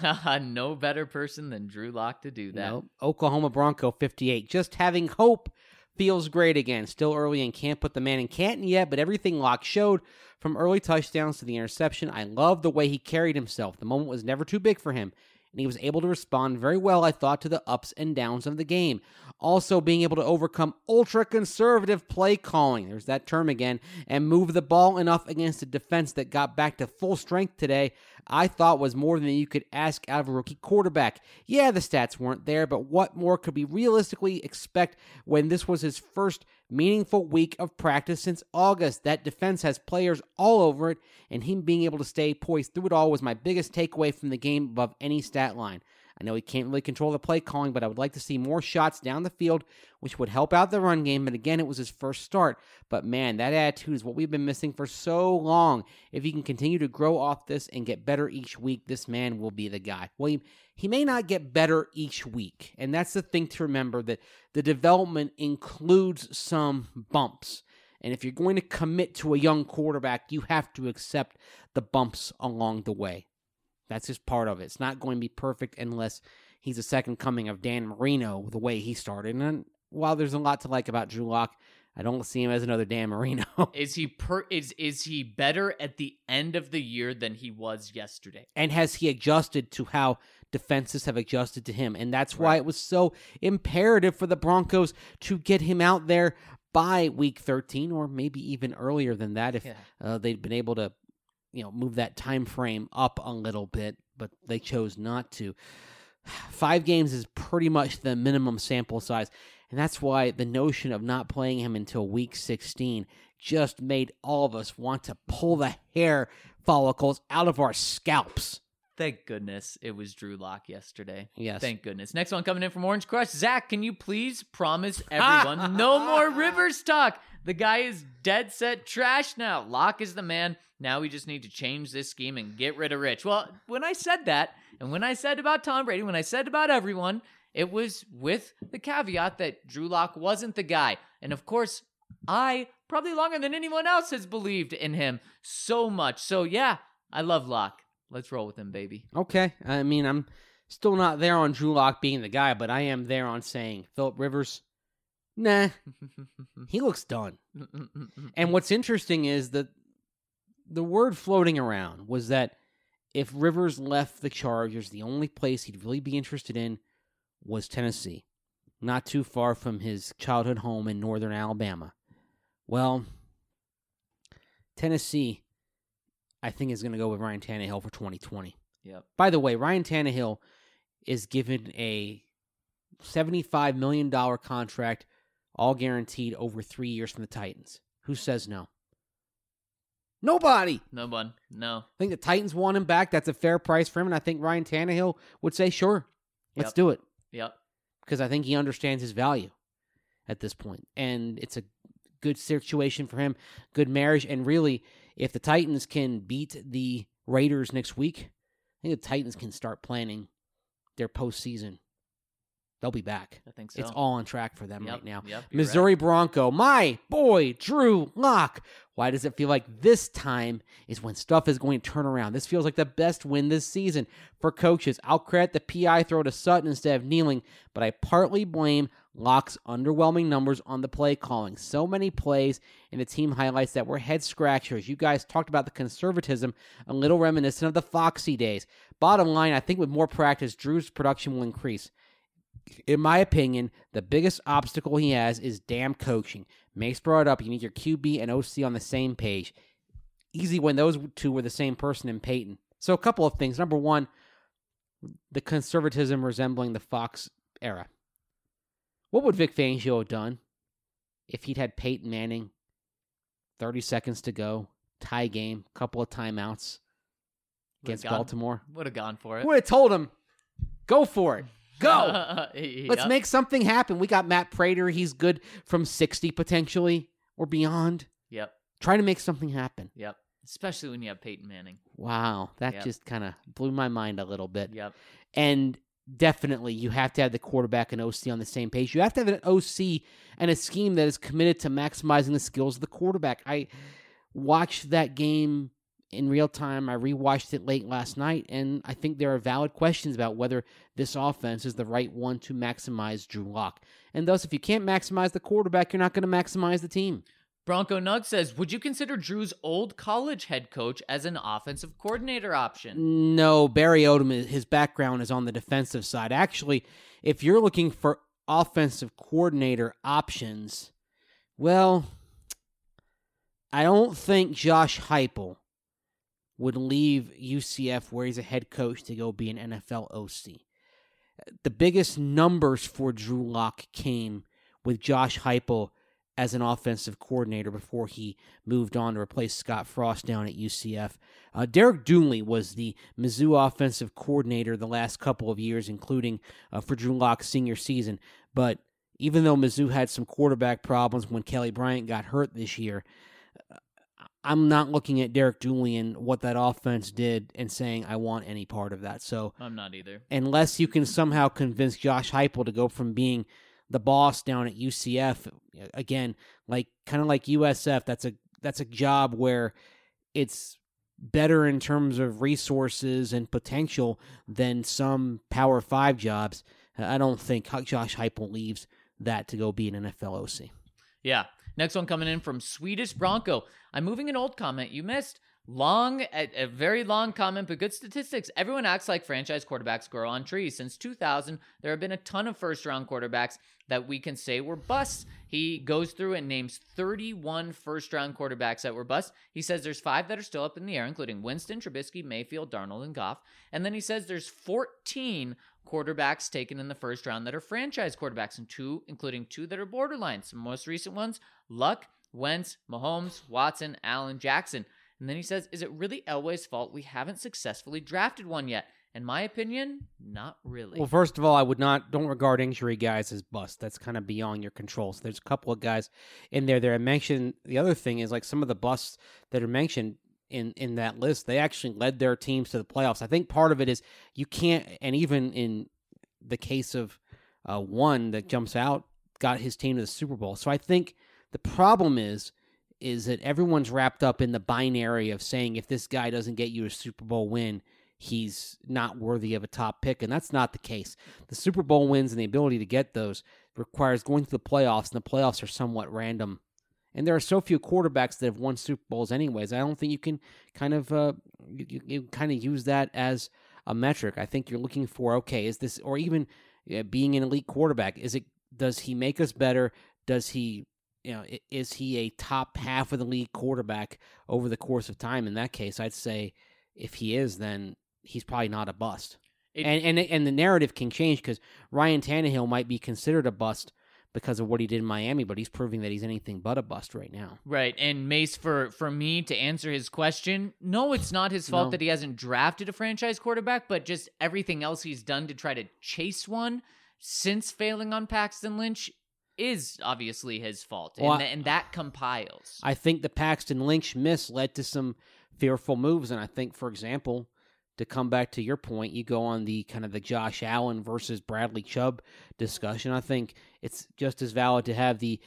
No better person than Drew Lock to do that. Nope. Oklahoma Bronco fifty-eight. Just having hope feels great again. Still early and can't put the man in Canton yet, but everything Lock showed, from early touchdowns to the interception, I love the way he carried himself. The moment was never too big for him, and he was able to respond very well, I thought, to the ups and downs of the game. Also being able to overcome ultra-conservative play calling, there's that term again, and move the ball enough against a defense that got back to full strength today, I thought was more than you could ask out of a rookie quarterback. Yeah, the stats weren't there, but what more could we realistically expect when this was his first meaningful week of practice since August? That defense has players all over it, and him being able to stay poised through it all was my biggest takeaway from the game above any stat line. I know he can't really control the play calling, but I would like to see more shots down the field, which would help out the run game. But again, it was his first start. But man, that attitude is what we've been missing for so long. If he can continue to grow off this and get better each week, this man will be the guy. Well, he, he may not get better each week. And that's the thing to remember, that the development includes some bumps. And if you're going to commit to a young quarterback, you have to accept the bumps along the way. That's just part of it. It's not going to be perfect unless he's a second coming of Dan Marino, the way he started. And while there's a lot to like about Drew Lock, I don't see him as another Dan Marino. Is he per is is he better at the end of the year than he was yesterday? And has he adjusted to how defenses have adjusted to him? And that's why Right. it was so imperative for the Broncos to get him out there by week thirteen, or maybe even earlier than that if Yeah. uh, they'd been able to, you know, move that time frame up a little bit, but they chose not to. Five games is pretty much the minimum sample size, and that's why the notion of not playing him until week sixteen just made all of us want to pull the hair follicles out of our scalps. Thank goodness it was Drew Lock yesterday. Yes. Thank goodness. Next one coming in from Orange Crush. Zach, can you please promise everyone no more Rivers talk? The guy is dead set trash now. Locke is the man. Now we just need to change this scheme and get rid of Rich. Well, when I said that, and when I said about Tom Brady, when I said about everyone, it was with the caveat that Drew Lock wasn't the guy. And of course, I, probably longer than anyone else, has believed in him so much. So yeah, I love Lock. Let's roll with him, baby. Okay. I mean, I'm still not there on Drew Lock being the guy, but I am there on saying Phillip Rivers, nah, he looks done. And what's interesting is that the word floating around was that if Rivers left the Chargers, the only place he'd really be interested in was Tennessee, not too far from his childhood home in northern Alabama. Well, Tennessee, I think, is going to go with Ryan Tannehill for twenty twenty. Yep. By the way, Ryan Tannehill is given a seventy-five million dollars contract, all guaranteed over three years from the Titans. Who says no? Nobody. No one. No. I think the Titans want him back. That's a fair price for him, and I think Ryan Tannehill would say, sure, let's Yep. do it. Yep. Because I think he understands his value at this point. And it's a good situation for him, good marriage. And really, if the Titans can beat the Raiders next week, I think the Titans can start planning their postseason. They'll be back. I think so. It's all on track for them Yep, right now. yep, you're Missouri right. Bronco, my boy, Drew Lock. Why does it feel like this time is when stuff is going to turn around? This feels like the best win this season for coaches. I'll credit the P I throw to Sutton instead of kneeling, but I partly blame Lock's underwhelming numbers on the play calling. So many plays in the team highlights that were head scratchers. You guys talked about the conservatism, a little reminiscent of the Foxy days. Bottom line, I think with more practice, Drew's production will increase. In my opinion, the biggest obstacle he has is damn coaching. Mace brought it up. You need your Q B and O C on the same page. Easy when those two were the same person in Peyton. So a couple of things. Number one, the conservatism resembling the Fox era. What would Vic Fangio have done if he'd had Peyton Manning, thirty seconds to go, tie game, couple of timeouts against Would've gone- Baltimore? Would have gone for it. Would have told him, go for it. Go. Yep. Let's make something happen. We got Matt Prater. He's good from sixty potentially or beyond. Yep. Try to make something happen. Yep. Especially when you have Peyton Manning. Wow. That Yep. just kind of blew my mind a little bit. Yep. And definitely you have to have the quarterback and O C on the same page. You have to have an O C and a scheme that is committed to maximizing the skills of the quarterback. I watched that game in real time. I rewatched it late last night, and I think there are valid questions about whether this offense is the right one to maximize Drew Lock. And thus, if you can't maximize the quarterback, you're not going to maximize the team. Bronco Nug says, would you consider Drew's old college head coach as an offensive coordinator option? No, Barry Odom, his background is on the defensive side. Actually, if you're looking for offensive coordinator options, well, I don't think Josh Heupel would leave U C F where he's a head coach to go be an N F L O C. The biggest numbers for Drew Lock came with Josh Heupel as an offensive coordinator before he moved on to replace Scott Frost down at U C F. Uh, Derek Dooley was the Mizzou offensive coordinator the last couple of years, including uh, for Drew Lock's senior season. But even though Mizzou had some quarterback problems when Kelly Bryant got hurt this year, I'm not looking at Derek Dooley and what that offense did and saying I want any part of that. So I'm not either. unless you can somehow convince Josh Heupel to go from being the boss down at U C F, again, like kind of like U S F, that's a that's a job where it's better in terms of resources and potential than some Power Five jobs. I don't think Josh Heupel leaves that to go be an N F L O C. Yeah. Next one coming in from Swedish Bronco. I'm moving an old comment you missed. Long, a, a very long comment, but good statistics. Everyone acts like franchise quarterbacks grow on trees. Since two thousand, there have been a ton of first-round quarterbacks that we can say were busts. He goes through and names thirty-one first-round quarterbacks that were busts. He says there's five that are still up in the air, including Winston, Trubisky, Mayfield, Darnold, and Goff. And then he says there's fourteen quarterbacks taken in the first round that are franchise quarterbacks, and two, including two that are borderline. Some most recent ones, Luck, Wentz, Mahomes, Watson, Allen, Jackson. And then he says, is it really Elway's fault we haven't successfully drafted one yet? In my opinion, not really. Well, first of all, I would not don't regard injury guys as bust. That's kind of beyond your control. So there's a couple of guys in there that I mentioned. The other thing is like some of the busts that are mentioned in, in that list, they actually led their teams to the playoffs. I think part of it is you can't, and even in the case of uh, one that jumps out, got his team to the Super Bowl. So I think the problem is, is that everyone's wrapped up in the binary of saying if this guy doesn't get you a Super Bowl win, he's not worthy of a top pick, and that's not the case. The Super Bowl wins and the ability to get those requires going to the playoffs, and the playoffs are somewhat random. And there are so few quarterbacks that have won Super Bowls anyways. I don't think you can kind of uh, you, you kind of use that as a metric. I think you're looking for, okay, is this, or even uh, being an elite quarterback, is it, does he make us better? Does he, you know, is he a top half of the league quarterback over the course of time? In that case, I'd say if he is, then he's probably not a bust. It, and, and and the narrative can change because Ryan Tannehill might be considered a bust because of what he did in Miami, but he's proving that he's anything but a bust right now. Right. And Mace, for, for me to answer his question, no, it's not his fault No. that he hasn't drafted a franchise quarterback, but just everything else he's done to try to chase one since failing on Paxton Lynch is obviously his fault. Well, and, I- th- and that compiles. I think the Paxton Lynch miss led to some fearful moves, and I think, for example, to come back to your point, you go on the kind of the Josh Allen versus Bradley Chubb discussion. I think it's just as valid to have the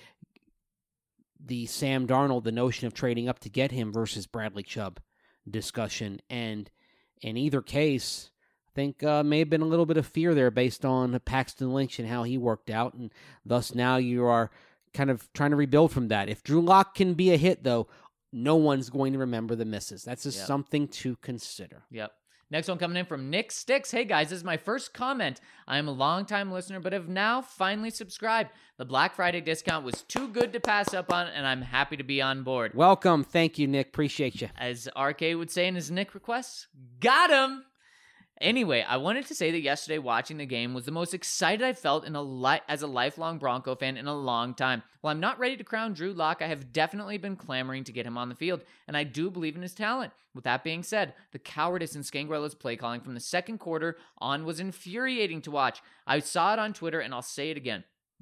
the Sam Darnold, the notion of trading up to get him versus Bradley Chubb discussion. And in either case, I think uh, may have been a little bit of fear there based on Paxton Lynch and how he worked out, and thus now you are kind of trying to rebuild from that. If Drew Lock can be a hit, though, no one's going to remember the misses. That's just Yep. something to consider. Yep. Next one coming in from Nick Sticks. Hey guys, this is my first comment. I am a longtime listener, but have now finally subscribed. The Black Friday discount was too good to pass up on, and I'm happy to be on board. Welcome. Thank you, Nick. Appreciate you. As R K would say in his Nick requests, got him! Anyway, I wanted to say that yesterday watching the game was the most excited I felt in a li- as a lifelong Bronco fan in a long time. While I'm not ready to crown Drew Lock, I have definitely been clamoring to get him on the field, and I do believe in his talent. With that being said, the cowardice in Scangarella's play calling from the second quarter on was infuriating to watch. I saw it on Twitter, and I'll say it again.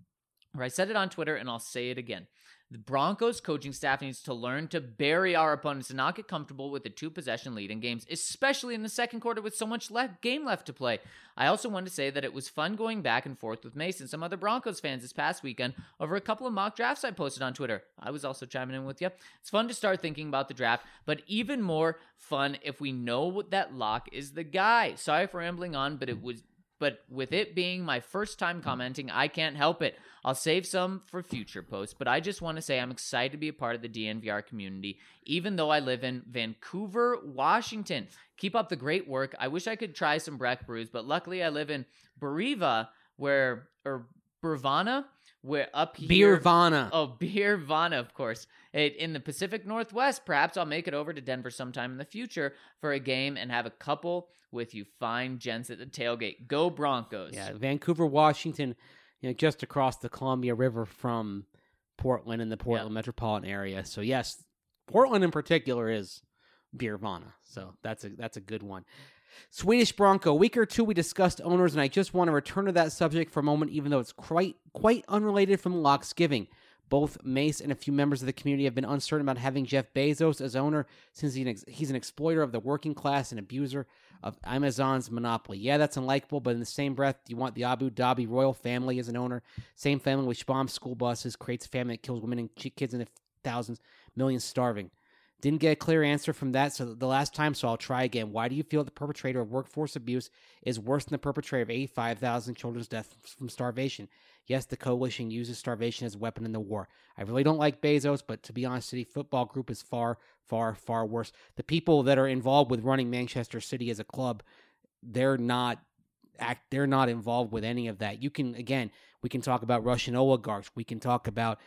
Or I said it on Twitter, and I'll say it again. The Broncos coaching staff needs to learn to bury our opponents and not get comfortable with a two-possession lead in games, especially in the second quarter with so much left game left to play. I also want to say that it was fun going back and forth with Mace and some other Broncos fans this past weekend over a couple of mock drafts I posted on Twitter. I was also chiming in with you. It's fun to start thinking about the draft, but even more fun if we know that Locke is the guy. Sorry for rambling on, but it was... But with it being my first time commenting, I can't help it. I'll save some for future posts, but I just want to say I'm excited to be a part of the D N V R community, even though I live in Vancouver, Washington. Keep up the great work. I wish I could try some Breck brews, but luckily I live in Beriva, where, or Birvana, where up here... Beervana. Oh, Beervana, of course. It, in the Pacific Northwest, perhaps I'll make it over to Denver sometime in the future for a game and have a couple with you fine gents at the tailgate. Go Broncos. Yeah, Vancouver, Washington, you know, just across the Columbia River from Portland in the Portland Yeah. metropolitan area. So yes, Portland in particular is Beervana. So that's a that's a good one. Swedish Bronco. A week or two we discussed owners, and I just want to return to that subject for a moment, even though it's quite quite unrelated from Locke's giving. Both Mace and a few members of the community have been uncertain about having Jeff Bezos as owner since he's an, ex- he's an exploiter of the working class and abuser of Amazon's monopoly. Yeah, that's unlikable, but in the same breath, you want the Abu Dhabi royal family as an owner. Same family which bombs school buses, creates famine that kills women and ch- kids in the thousands, millions starving. Didn't get a clear answer from that so the last time, so I'll try again. Why do you feel the perpetrator of workforce abuse is worse than the perpetrator of eighty-five thousand children's deaths from starvation? Yes, the coalition uses starvation as a weapon in the war. I really don't like Bezos, but to be honest, City Football Group is far, far, far worse. The people that are involved with running Manchester City as a club, they're not act they're not involved with any of that. You can, again, we can talk about Russian oligarchs. We can talk about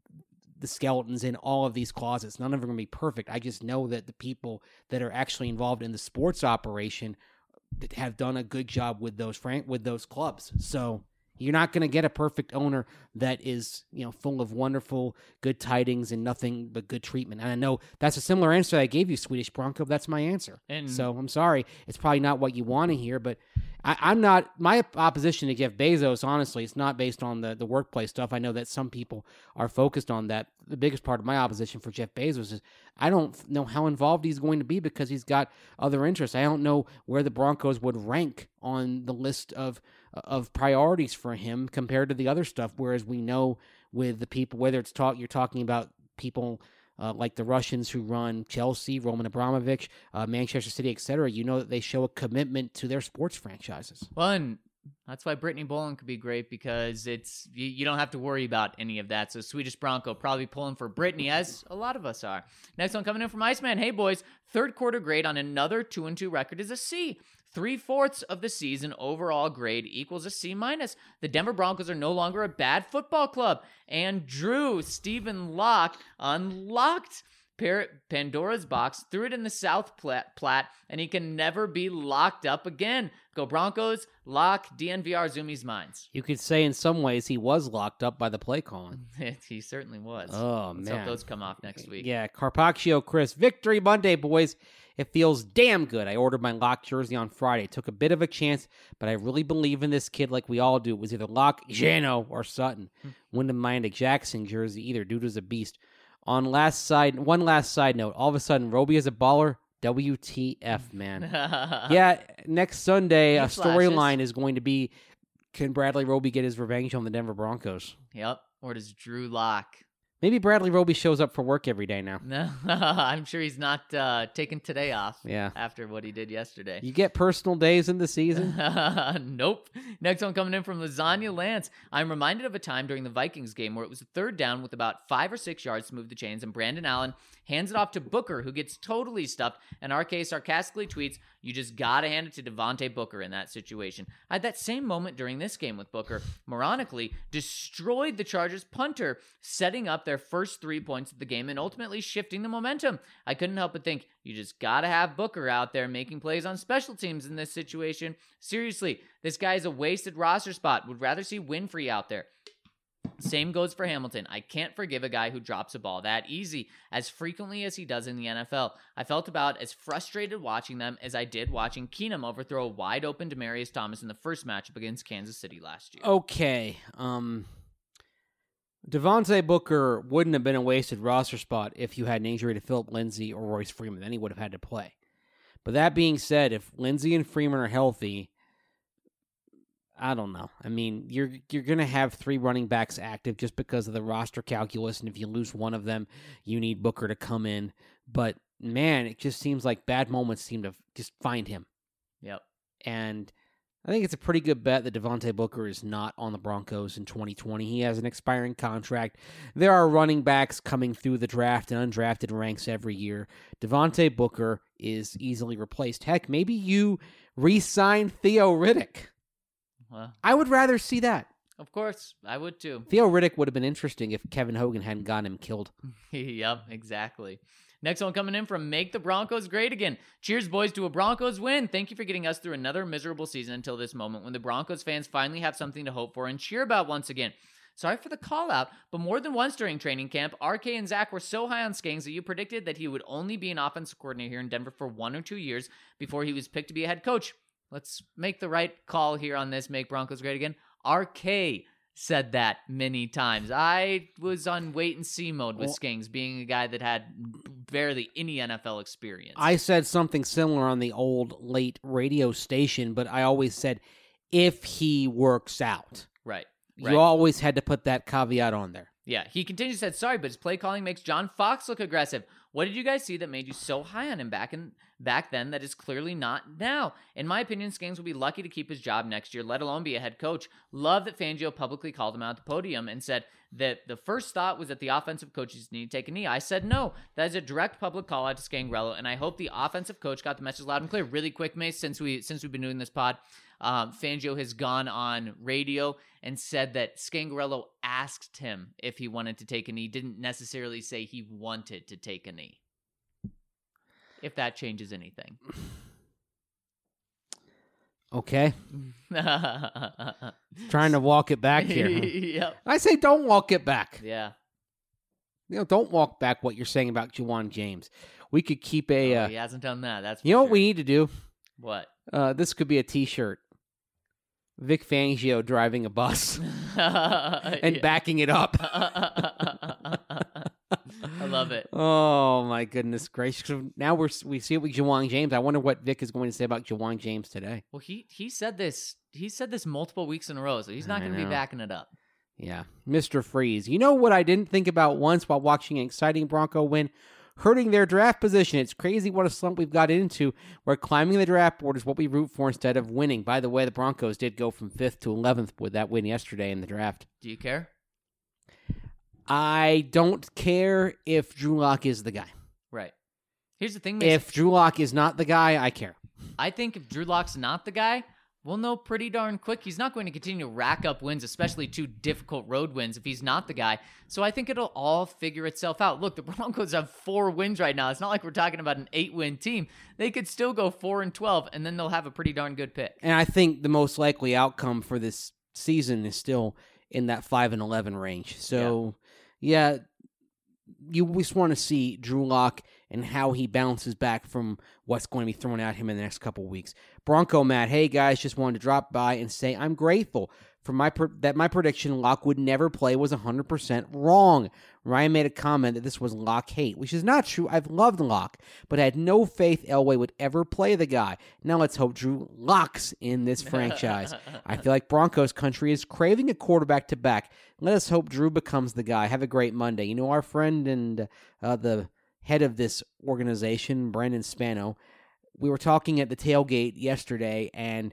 the skeletons in all of these closets. None of them are going to be perfect. I just know that the people that are actually involved in the sports operation have done a good job with those frank with those clubs. So You're not going to get a perfect owner that is, you know, full of wonderful, good tidings and nothing but good treatment. And I know that's a similar answer I gave you, Swedish Bronco. That's my answer. And so I'm sorry. It's probably not what you want to hear, but I, I'm not, my opposition to Jeff Bezos, honestly, it's not based on the, the workplace stuff. I know that some people are focused on that. The biggest part of my opposition for Jeff Bezos is I don't know how involved he's going to be because he's got other interests. I don't know where the Broncos would rank on the list of of priorities for him compared to the other stuff. Whereas we know with the people, whether it's talk, you're talking about people uh, like the Russians who run Chelsea, Roman Abramovich, uh, Manchester City, et cetera, you know that they show a commitment to their sports franchises. Well, and that's why Brittany Boland could be great because it's you, you don't have to worry about any of that. So Swedish Bronco probably pulling for Brittany, as a lot of us are. Next one coming in from Iceman. Hey, boys. Third quarter grade on another two and two record is a C. Three-fourths of the season overall grade equals a C minus. The Denver Broncos are no longer a bad football club. And Drew Stephen Locke unlocked Pandora's box, threw it in the South Platte, Platte, and he can never be locked up again. Go Broncos, lock D N V R Zoomies minds. You could say in some ways he was locked up by the play calling. He certainly was. Oh, Let's man. hope those come off next week. Yeah, Carpaccio Chris. Victory Monday, boys. It feels damn good. I ordered my Lock jersey on Friday. Took a bit of a chance, but I really believe in this kid like we all do. It was either Lock, Jano, or Sutton. Wouldn't mind a Jackson jersey either. Dude was a beast. On last side, one last side note. All of a sudden, Roby is a baller. W T F, man. Yeah, next Sunday, He a flashes. storyline is going to be, can Bradley Roby get his revenge on the Denver Broncos? Yep. Or does Drew Lock? Maybe Bradley Roby shows up for work every day now. No, I'm sure he's not uh, taking today off. Yeah. After what he did yesterday. You get personal days in the season? Nope. Next one coming in from Lasagna Lance. I'm reminded of a time during the Vikings game where it was a third down with about five or six yards to move the chains, and Brandon Allen hands it off to Booker, who gets totally stuffed, and R K sarcastically tweets, "You just gotta hand it to Devontae Booker in that situation." I had that same moment during this game with Booker. Moronically destroyed the Chargers punter, setting up their first three points of the game and ultimately shifting the momentum. I couldn't help but think, you just gotta have Booker out there making plays on special teams in this situation. Seriously, this guy is a wasted roster spot. Would rather see Winfrey out there. Same goes for Hamilton. I can't forgive a guy who drops a ball that easy as frequently as he does in the N F L. I felt about as frustrated watching them as I did watching Keenum overthrow a wide-open Demaryius Thomas in the first matchup against Kansas City last year. Okay. Um, Devontae Booker wouldn't have been a wasted roster spot if you had an injury to Philip Lindsay or Royce Freeman. Then he would have had to play. But that being said, if Lindsay and Freeman are healthy, I don't know. I mean, you're you're going to have three running backs active just because of the roster calculus, and if you lose one of them, you need Booker to come in. But, man, it just seems like bad moments seem to just find him. Yep. And I think it's a pretty good bet that Devontae Booker is not on the Broncos in twenty twenty. He has an expiring contract. There are running backs coming through the draft and undrafted ranks every year. Devontae Booker is easily replaced. Heck, maybe you re-sign Theo Riddick. Well, I would rather see that. of course, I would too. Theo Riddick would have been interesting if Kevin Hogan hadn't gotten him killed. Yep, exactly. Next one coming in from Make the Broncos Great Again. Cheers, boys, to a Broncos win. Thank you for getting us through another miserable season until this moment when the Broncos fans finally have something to hope for and cheer about once again. Sorry for the call out, but more than once during training camp, R K and Zach were so high on Skangs that you predicted that he would only be an offensive coordinator here in Denver for one or two years before he was picked to be a head coach. Let's make the right call here on this Make Broncos Great Again. R K said that many times. I was on wait-and-see mode with Well, Skangs, being a guy that had barely any N F L experience. I said something similar on the old late radio station, but I always said, if he works out. Right. You right. always had to put that caveat on there. Yeah, he continues to say, sorry, but his play calling makes John Fox look aggressive. What did you guys see that made you so high on him back in back then that is clearly not now? In my opinion, Skangs will be lucky to keep his job next year, let alone be a head coach. Love that Fangio publicly called him out at the podium and said that the first thought was that the offensive coaches need to take a knee. I said no. That is a direct public call out to Scangarello, and I hope the offensive coach got the message loud and clear. Really quick, Mace, since, we, since we've been doing this pod, um, Fangio has gone on radio and said that Scangarello asked him if he wanted to take a knee, didn't necessarily say he wanted to take a knee. If that changes anything. Okay. Trying to walk it back here. Huh? Yep. I say don't walk it back. Yeah. You know, don't walk back what you're saying about Juwan James. We could keep a... Oh, uh, he hasn't done that. That's for you know sure. what we need to do? What? Uh, this could be a T-shirt. Vic Fangio driving a bus and Yeah. backing it up. I love it. Oh, my goodness gracious. So now we're, we see it with Juwan James. I wonder what Vic is going to say about Juwan James today. Well, he he said this. He said this multiple weeks in a row, so he's not I going to be know. backing it up. Yeah. Mister Freeze. You know what I didn't think about once while watching an exciting Bronco win? Hurting their draft position. It's crazy what a slump we've got into, where climbing the draft board is what we root for instead of winning. By the way, the Broncos did go from fifth to eleventh with that win yesterday in the draft. Do you care? I don't care if Drew Lock is the guy. Right. Here's the thing, Mason. If Drew Lock is not the guy, I care. I think if Drew Lock's not the guy, we'll know pretty darn quick. He's not going to continue to rack up wins, especially two difficult road wins, if he's not the guy. So I think it'll all figure itself out. Look, the Broncos have four wins right now. It's not like we're talking about an eight-win team. They could still go four and twelve, and then they'll have a pretty darn good pick. And I think the most likely outcome for this season is still in that five and eleven range. So, yeah, you just want to see Drew Lock and how he bounces back from what's going to be thrown at him in the next couple of weeks. Bronco Matt, hey guys, just wanted to drop by and say I'm grateful for my per- that my prediction Lock would never play was one hundred percent wrong. Ryan made a comment that this was Lock hate, which is not true. I've loved Lock, but I had no faith Elway would ever play the guy. Now let's hope Drew locks in this franchise. I feel like Broncos country is craving a quarterback to back. Let us hope Drew becomes the guy. Have a great Monday. You know, our friend and uh, the head of this organization, Brandon Spano, we were talking at the tailgate yesterday, and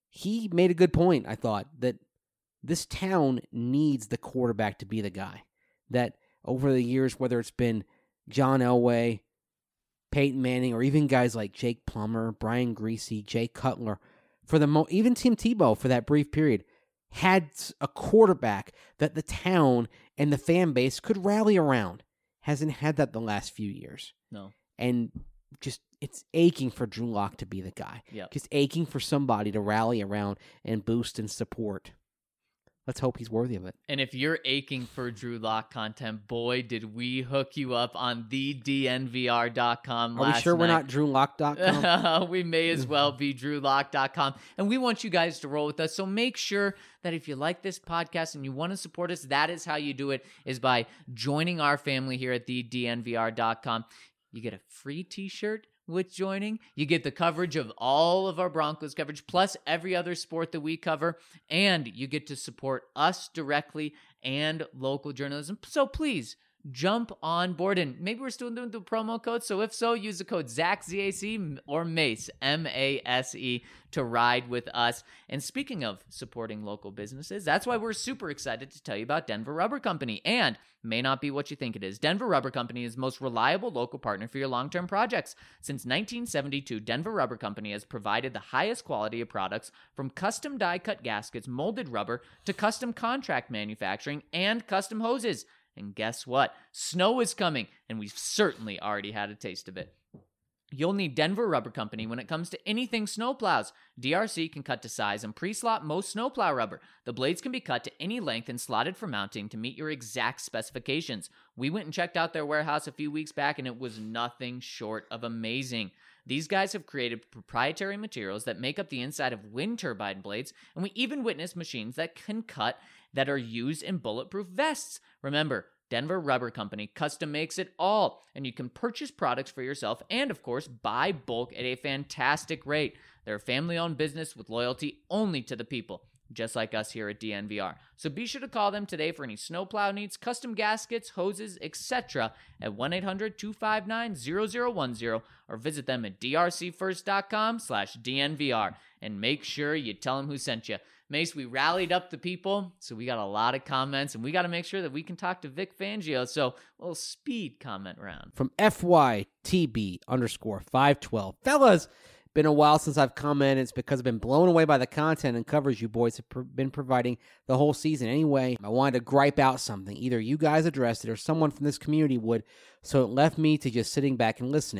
he made a good point, I thought, that this town needs the quarterback to be the guy. That over the years, whether it's been John Elway, Peyton Manning, or even guys like Jake Plummer, Brian Griese, Jay Cutler, for the mo- even Tim Tebow for that brief period, had a quarterback that the town and the fan base could rally around. Hasn't had that the last few years. No. And just, it's aching for Drew Lock to be the guy. Yep. Just aching for somebody to rally around and boost and support. Let's hope he's worthy of it. And if you're aching for Drew Lock content, boy, did we hook you up on the D N V R dot com Are last we sure night. we're not Drew Lock dot com? We may as well be Drew Lock dot com. And we want you guys to roll with us. So make sure that if you like this podcast and you want to support us, that is how you do it, is by joining our family here at the D N V R dot com. You get a free t-shirt with joining. You get the coverage of all of our Broncos coverage, plus every other sport that we cover, and you get to support us directly and local journalism. So please jump on board, and maybe we're still doing the promo code. So if so, use the code ZAC, Z A C, or Mace, M A S E, to ride with us. And speaking of supporting local businesses, that's why we're super excited to tell you about Denver Rubber Company. And may not be what you think it is. Denver Rubber Company is the most reliable local partner for your long-term projects. Since nineteen seventy-two, Denver Rubber Company has provided the highest quality of products, from custom die-cut gaskets, molded rubber, to custom contract manufacturing and custom hoses. And guess what? Snow is coming, and we've certainly already had a taste of it. You'll need Denver Rubber Company when it comes to anything snowplows. D R C can cut to size and pre-slot most snowplow rubber. The blades can be cut to any length and slotted for mounting to meet your exact specifications. We went and checked out their warehouse a few weeks back, and it was nothing short of amazing. These guys have created proprietary materials that make up the inside of wind turbine blades, and we even witnessed machines that can cut that are used in bulletproof vests. Remember, Denver Rubber Company custom makes it all, and you can purchase products for yourself and, of course, buy bulk at a fantastic rate. They're a family-owned business with loyalty only to the people, just like us here at D N V R. So be sure to call them today for any snowplow needs, custom gaskets, hoses, et cetera at one eight hundred two five nine zero zero one zero or visit them at d r c first dot com slash D N V R, and make sure you tell them who sent you. Mace, we rallied up the people, so we got a lot of comments, and we got to make sure that we can talk to Vic Fangio, so a little speed comment round. From F Y T B underscore five twelve. Fellas, been a while since I've commented. It's because I've been blown away by the content and coverage you boys have pr- been providing the whole season. Anyway, I wanted to gripe out something. Either you guys addressed it or someone from this community would, so it left me to just sitting back and listening.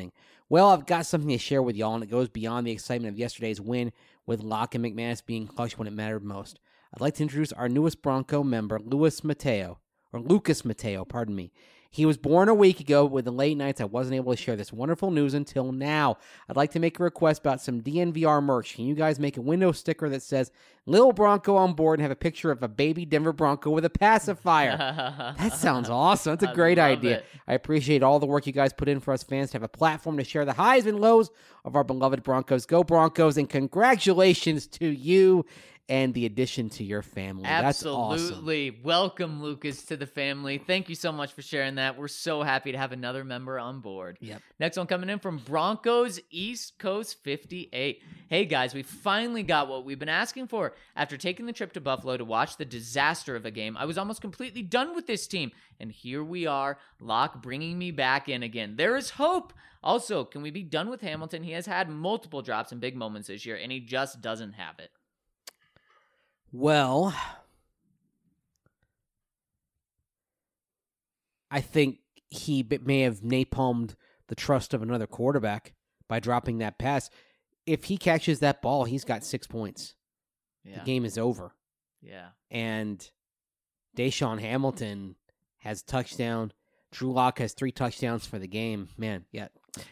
Well, I've got something to share with y'all, and it goes beyond the excitement of yesterday's win with Locke and McManus being clutch when it mattered most. I'd like to introduce our newest Bronco member, Luis Mateo, or Lucas Mateo, pardon me. He was born a week ago, but with the late nights, I wasn't able to share this wonderful news until now. I'd like to make a request about some D N V R merch. Can you guys make a window sticker that says Lil Bronco on board and have a picture of a baby Denver Bronco with a pacifier? That sounds awesome. That's a great I love idea. it. I appreciate all the work you guys put in for us fans to have a platform to share the highs and lows of our beloved Broncos. Go Broncos, and congratulations to you and the addition to your family. That's awesome. Absolutely. Welcome, Lucas, to the family. Thank you so much for sharing that. We're so happy to have another member on board. Yep. Next one coming in from Broncos East Coast fifty-eight. Hey, guys, we finally got what we've been asking for. After taking the trip to Buffalo to watch the disaster of a game, I was almost completely done with this team. And here we are, Locke bringing me back in again. There is hope. Also, can we be done with Hamilton? He has had multiple drops and big moments this year, and he just doesn't have it. Well, I think he b- may have napalmed the trust of another quarterback by dropping that pass. If he catches that ball, he's got six points. Yeah. The game is over. Yeah. And Deshaun Hamilton has touchdown. Drew Lock has three touchdowns for the game. Man, yeah.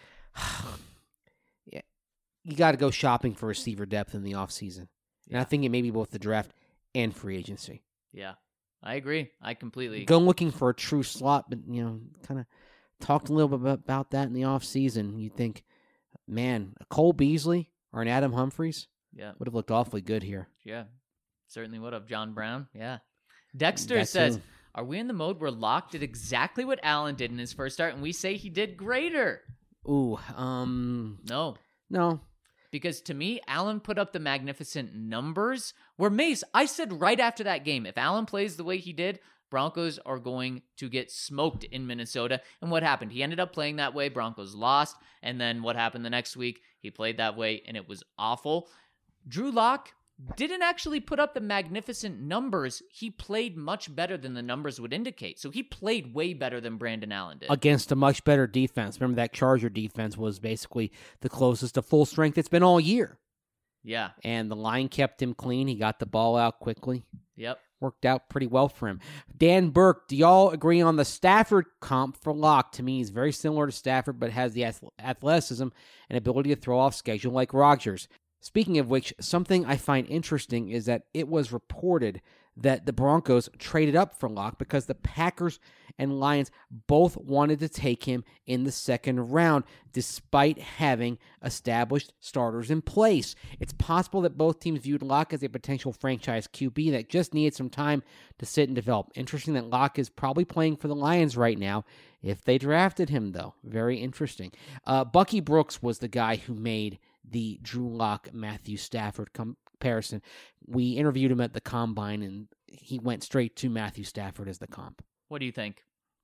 yeah. You got to go shopping for receiver depth in the offseason. And I think it may be both the draft and free agency. Yeah, I agree. I completely Go looking for a true slot, but, you know, kind of talked a little bit about that in the offseason. You think, man, a Cole Beasley or an Adam Humphries Yeah. would have looked awfully good here. Yeah. Certainly would have. John Brown. Yeah. Dexter That says, too. are we in the mode where Locke did exactly what Allen did in his first start, and we say he did greater? Ooh, um, No. no. Because to me, Allen put up the magnificent numbers where Mace, I said right after that game, if Allen plays the way he did, Broncos are going to get smoked in Minnesota. And what happened? He ended up playing that way. Broncos lost. And then what happened the next week? He played that way, and it was awful. Drew Lock didn't actually put up the magnificent numbers. He played much better than the numbers would indicate. So he played way better than Brandon Allen did. Against a much better defense. Remember that Charger defense was basically the closest to full strength it's been all year. Yeah. And the line kept him clean. He got the ball out quickly. Yep. Worked out pretty well for him. Dan Burke, do y'all agree on the Stafford comp for Locke? To me, he's very similar to Stafford, but has the ath- athleticism and ability to throw off schedule like Rodgers. Speaking of which, something I find interesting is that it was reported that the Broncos traded up for Locke because the Packers and Lions both wanted to take him in the second round, despite having established starters in place. It's possible that both teams viewed Locke as a potential franchise Q B that just needed some time to sit and develop. Interesting that Locke is probably playing for the Lions right now, if they drafted him, though. Very interesting. Uh, Bucky Brooks was the guy who made the Drew Lock Matthew Stafford comparison. We interviewed him at the Combine, and he went straight to Matthew Stafford as the comp. What do you think?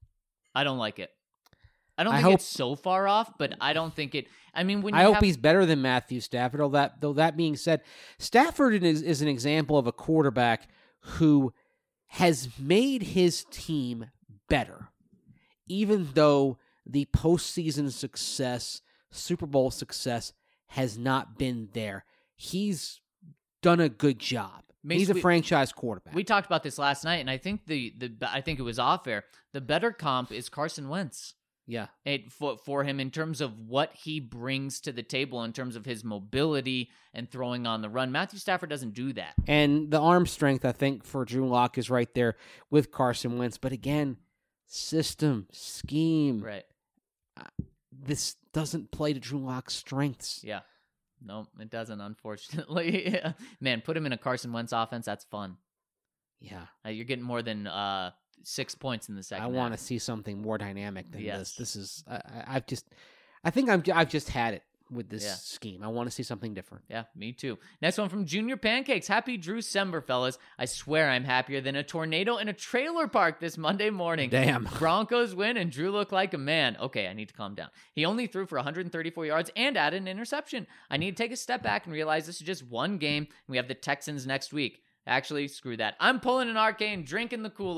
I don't like it. I don't I think hope- it's so far off, but I don't think it. I mean, when you I hope have, he's better than Matthew Stafford. Though that, though that being said, Stafford is, is an example of a quarterback who has made his team better, even though the postseason success, Super Bowl success, has not been there. He's done a good job. Mace, He's a we- franchise quarterback. we talked about this last night, and I think the the I think it was off air. The better comp is Carson Wentz. yeah. It, for, for him in terms of what he brings to the table in terms of his mobility and throwing on the run. Matthew Stafford doesn't do that. And the arm strength, I think, for Drew Lock is right there with Carson Wentz. But again, system, scheme. Right. This doesn't play to Drew Lock's strengths. Yeah. No, it doesn't, unfortunately. Man, put him in a Carson Wentz offense. That's fun. Yeah. Uh, you're getting more than uh, six points in the second I want to half. see something more dynamic than Yes. this. This is, I, I- I've just, I think I'm, I've just had it with this Yeah. scheme. I want to see something different. Yeah, me too. Next one from Junior Pancakes. Happy Drew Sember, fellas. I swear I'm happier than a tornado in a trailer park this Monday morning. Damn. Broncos win and Drew looked like a man. Okay, I need to calm down. He only threw for one hundred thirty-four yards and added an interception. I need to take a step back and realize this is just one game, and we have the Texans next week. Actually, screw that. I'm pulling an arcane, drinking the Kool-Aid.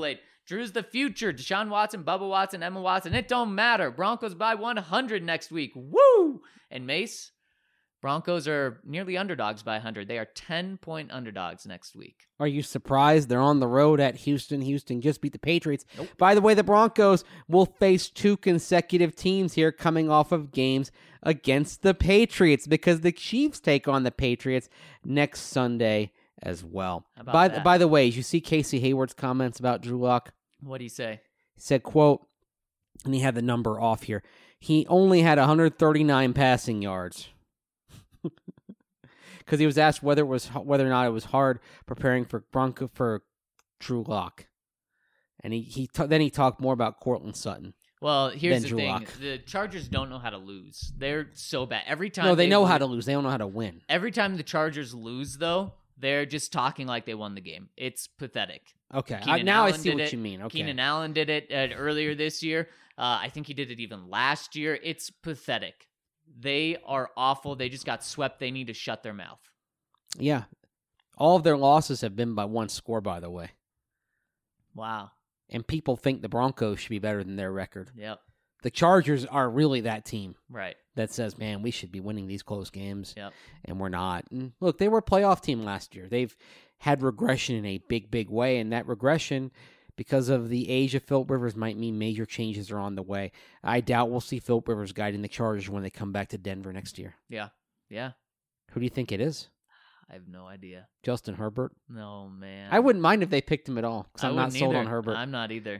Drew's the future. Deshaun Watson, Bubba Watson, Emma Watson. It don't matter. Broncos by one hundred next week. Woo! And Mace, Broncos are nearly underdogs by one hundred. They are ten-point underdogs next week. Are you surprised? They're on the road at Houston. Houston just beat the Patriots. Nope. By the way, the Broncos will face two consecutive teams here coming off of games against the Patriots because the Chiefs take on the Patriots next Sunday as well. How about By, that? by the way, did you see Casey Hayward's comments about Drew Lock? What do you say? He said, quote, and he had the number off here, he only had one hundred thirty-nine passing yards. Because he was asked whether it was whether or not it was hard preparing for Bronco for Drew Lock, and he he ta- then he talked more about Cortland Sutton. Well, here's Then the Drew thing: Lock. the Chargers don't know how to lose. They're so bad every time. No, they know lose, how to lose. They don't know how to win. Every time the Chargers lose, though, they're just talking like they won the game. It's pathetic. Okay, I, Keenan now I Allen see did what it. you mean. Okay, Keenan Allen did it uh, earlier this year. Uh, I think he did it even last year. It's pathetic. They are awful. They just got swept. They need to shut their mouth. yeah, all of their losses have been by one score, by the way. Wow. And people think the Broncos should be better than their record. Yep. The Chargers are really that team Right. that says, man, we should be winning these close games. Yep. And we're not. And look, they were a playoff team last year. They've had regression in a big, big way, and that regression, because of the age of Philip Rivers, might mean major changes are on the way. I doubt we'll see Philip Rivers guiding the Chargers when they come back to Denver next year. Yeah. Yeah. Who do you think it is? I have no idea. Justin Herbert? No, man. I wouldn't mind if they picked him at all, because I I'm not wouldn't sold either. on Herbert. I'm not either.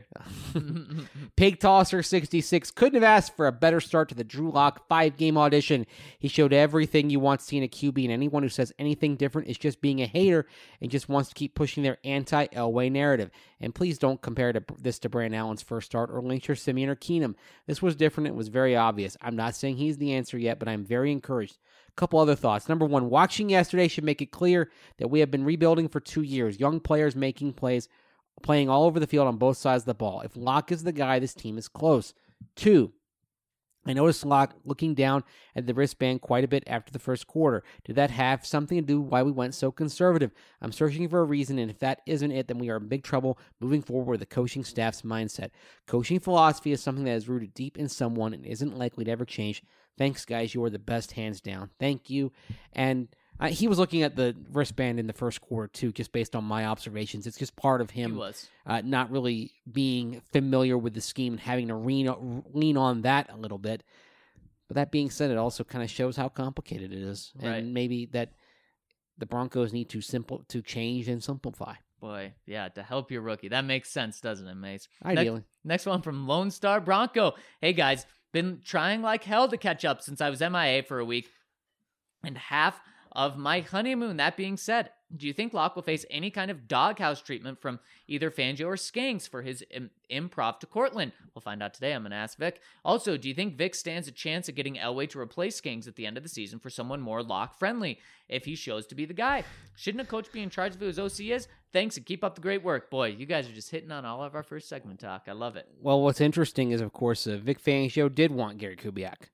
Pig Tosser sixty-six couldn't have asked for a better start to the Drew Lock five-game audition. He showed everything you want to see in a Q B, and anyone who says anything different is just being a hater and just wants to keep pushing their anti-Elway narrative. And please don't compare to, this to Brandon Allen's first start or Lynch or Simeon or Keenum. This was different. It was very obvious. I'm not saying he's the answer yet, but I'm very encouraged. Couple other thoughts. Number one, watching yesterday should make it clear that we have been rebuilding for two years. Young players making plays, playing all over the field on both sides of the ball. If Locke is the guy, this team is close. Two, I noticed Locke looking down at the wristband quite a bit after the first quarter. Did that have something to do with why we went so conservative? I'm searching for a reason, and if that isn't it, then we are in big trouble moving forward with the coaching staff's mindset. Coaching philosophy is something that is rooted deep in someone and isn't likely to ever change. Thanks, guys. You are the best, hands down. Thank you. And uh, he was looking at the wristband in the first quarter, too, just based on my observations. It's just part of him He was. uh, not really being familiar with the scheme and having to lean, lean on that a little bit. But that being said, it also kind of shows how complicated it is. Right. And maybe that the Broncos need to simple to change and simplify. Boy, yeah, to help your rookie. That makes sense, doesn't it, Mace? Ideally. Next, next one from Lone Star Bronco. Hey, guys, been trying like hell to catch up since I was M I A for a week and half of my honeymoon. That being said, do you think Locke will face any kind of doghouse treatment from either Fangio or Skanks for his Im- improv to Cortland? We'll find out today. I'm going to ask Vic. Also, do you think Vic stands a chance at getting Elway to replace Skanks at the end of the season for someone more Locke-friendly if he shows to be the guy? Shouldn't a coach be in charge of who his O C is? Thanks, and keep up the great work. Boy, you guys are just hitting on all of our first segment talk. I love it. Well, what's interesting is, of course, uh, Vic Fangio did want Gary Kubiak.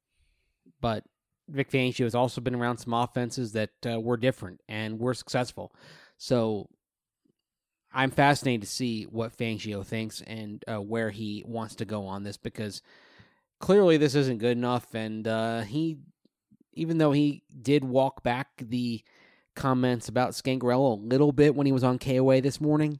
But Vic Fangio has also been around some offenses that uh, were different and were successful. So I'm fascinated to see what Fangio thinks and uh, where he wants to go on this, because clearly this isn't good enough. And uh, he, even though he did walk back the comments about Scangarello a little bit when he was on K O A this morning,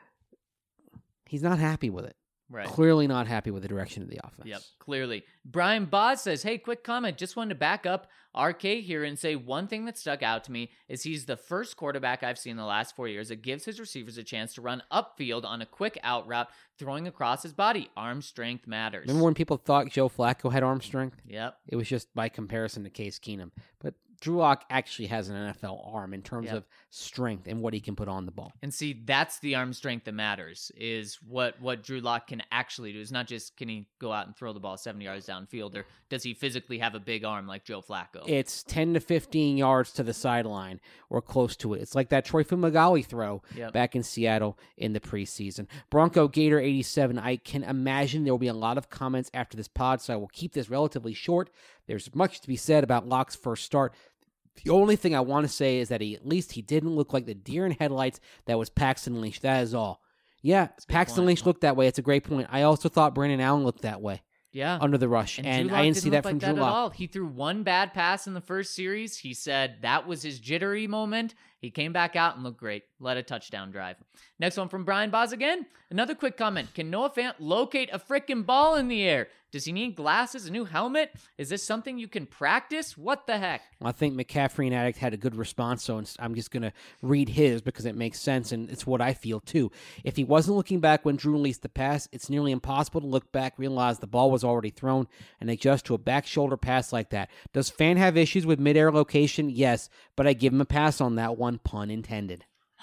he's not happy with it. Right. Clearly not happy with the direction of the offense. Yep, clearly. Brian Boz says, hey, quick comment. Just wanted to back up R K here and say one thing that stuck out to me is he's the first quarterback I've seen in the last four years that gives his receivers a chance to run upfield on a quick out route, throwing across his body. Arm strength matters. Remember when people thought Joe Flacco had arm strength? Yep. It was just by comparison to Case Keenum. But Drew Lock actually has an N F L arm in terms Yep. of strength and what he can put on the ball. And see, that's the arm strength that matters, is what, what Drew Lock can actually do. It's not just can he go out and throw the ball seventy yards downfield, or does he physically have a big arm like Joe Flacco? It's ten to fifteen yards to the sideline or close to it. It's like that Troy Fumagalli throw Yep. back in Seattle in the preseason. Bronco Gator eighty-seven, I can imagine there will be a lot of comments after this pod, so I will keep this relatively short. There's much to be said about Lock's first start. The only thing I want to say is that he, at least he didn't look like the deer in headlights that was Paxton Lynch. That is all. Yeah, a good Paxton point. Lynch looked that way. It's a great point. I also thought Brandon Allen looked that way Yeah. under the rush, and, And, Drew Lock I didn't see look that from like Drew that Lock. at all. He threw one bad pass in the first series. He said that was his jittery moment. He came back out and looked great. Led a touchdown drive. Next one from Brian Boz again. Another quick comment. Can Noah Fant locate a frickin' ball in the air? Does he need glasses, a new helmet? Is this something you can practice? What the heck? I think McCaffrey and Addict had a good response, so I'm just going to read his because it makes sense, and it's what I feel too. If he wasn't looking back when Drew released the pass, it's nearly impossible to look back, realize the ball was already thrown, and adjust to a back shoulder pass like that. Does Fan have issues with midair location? Yes, but I give him a pass on that one, pun intended.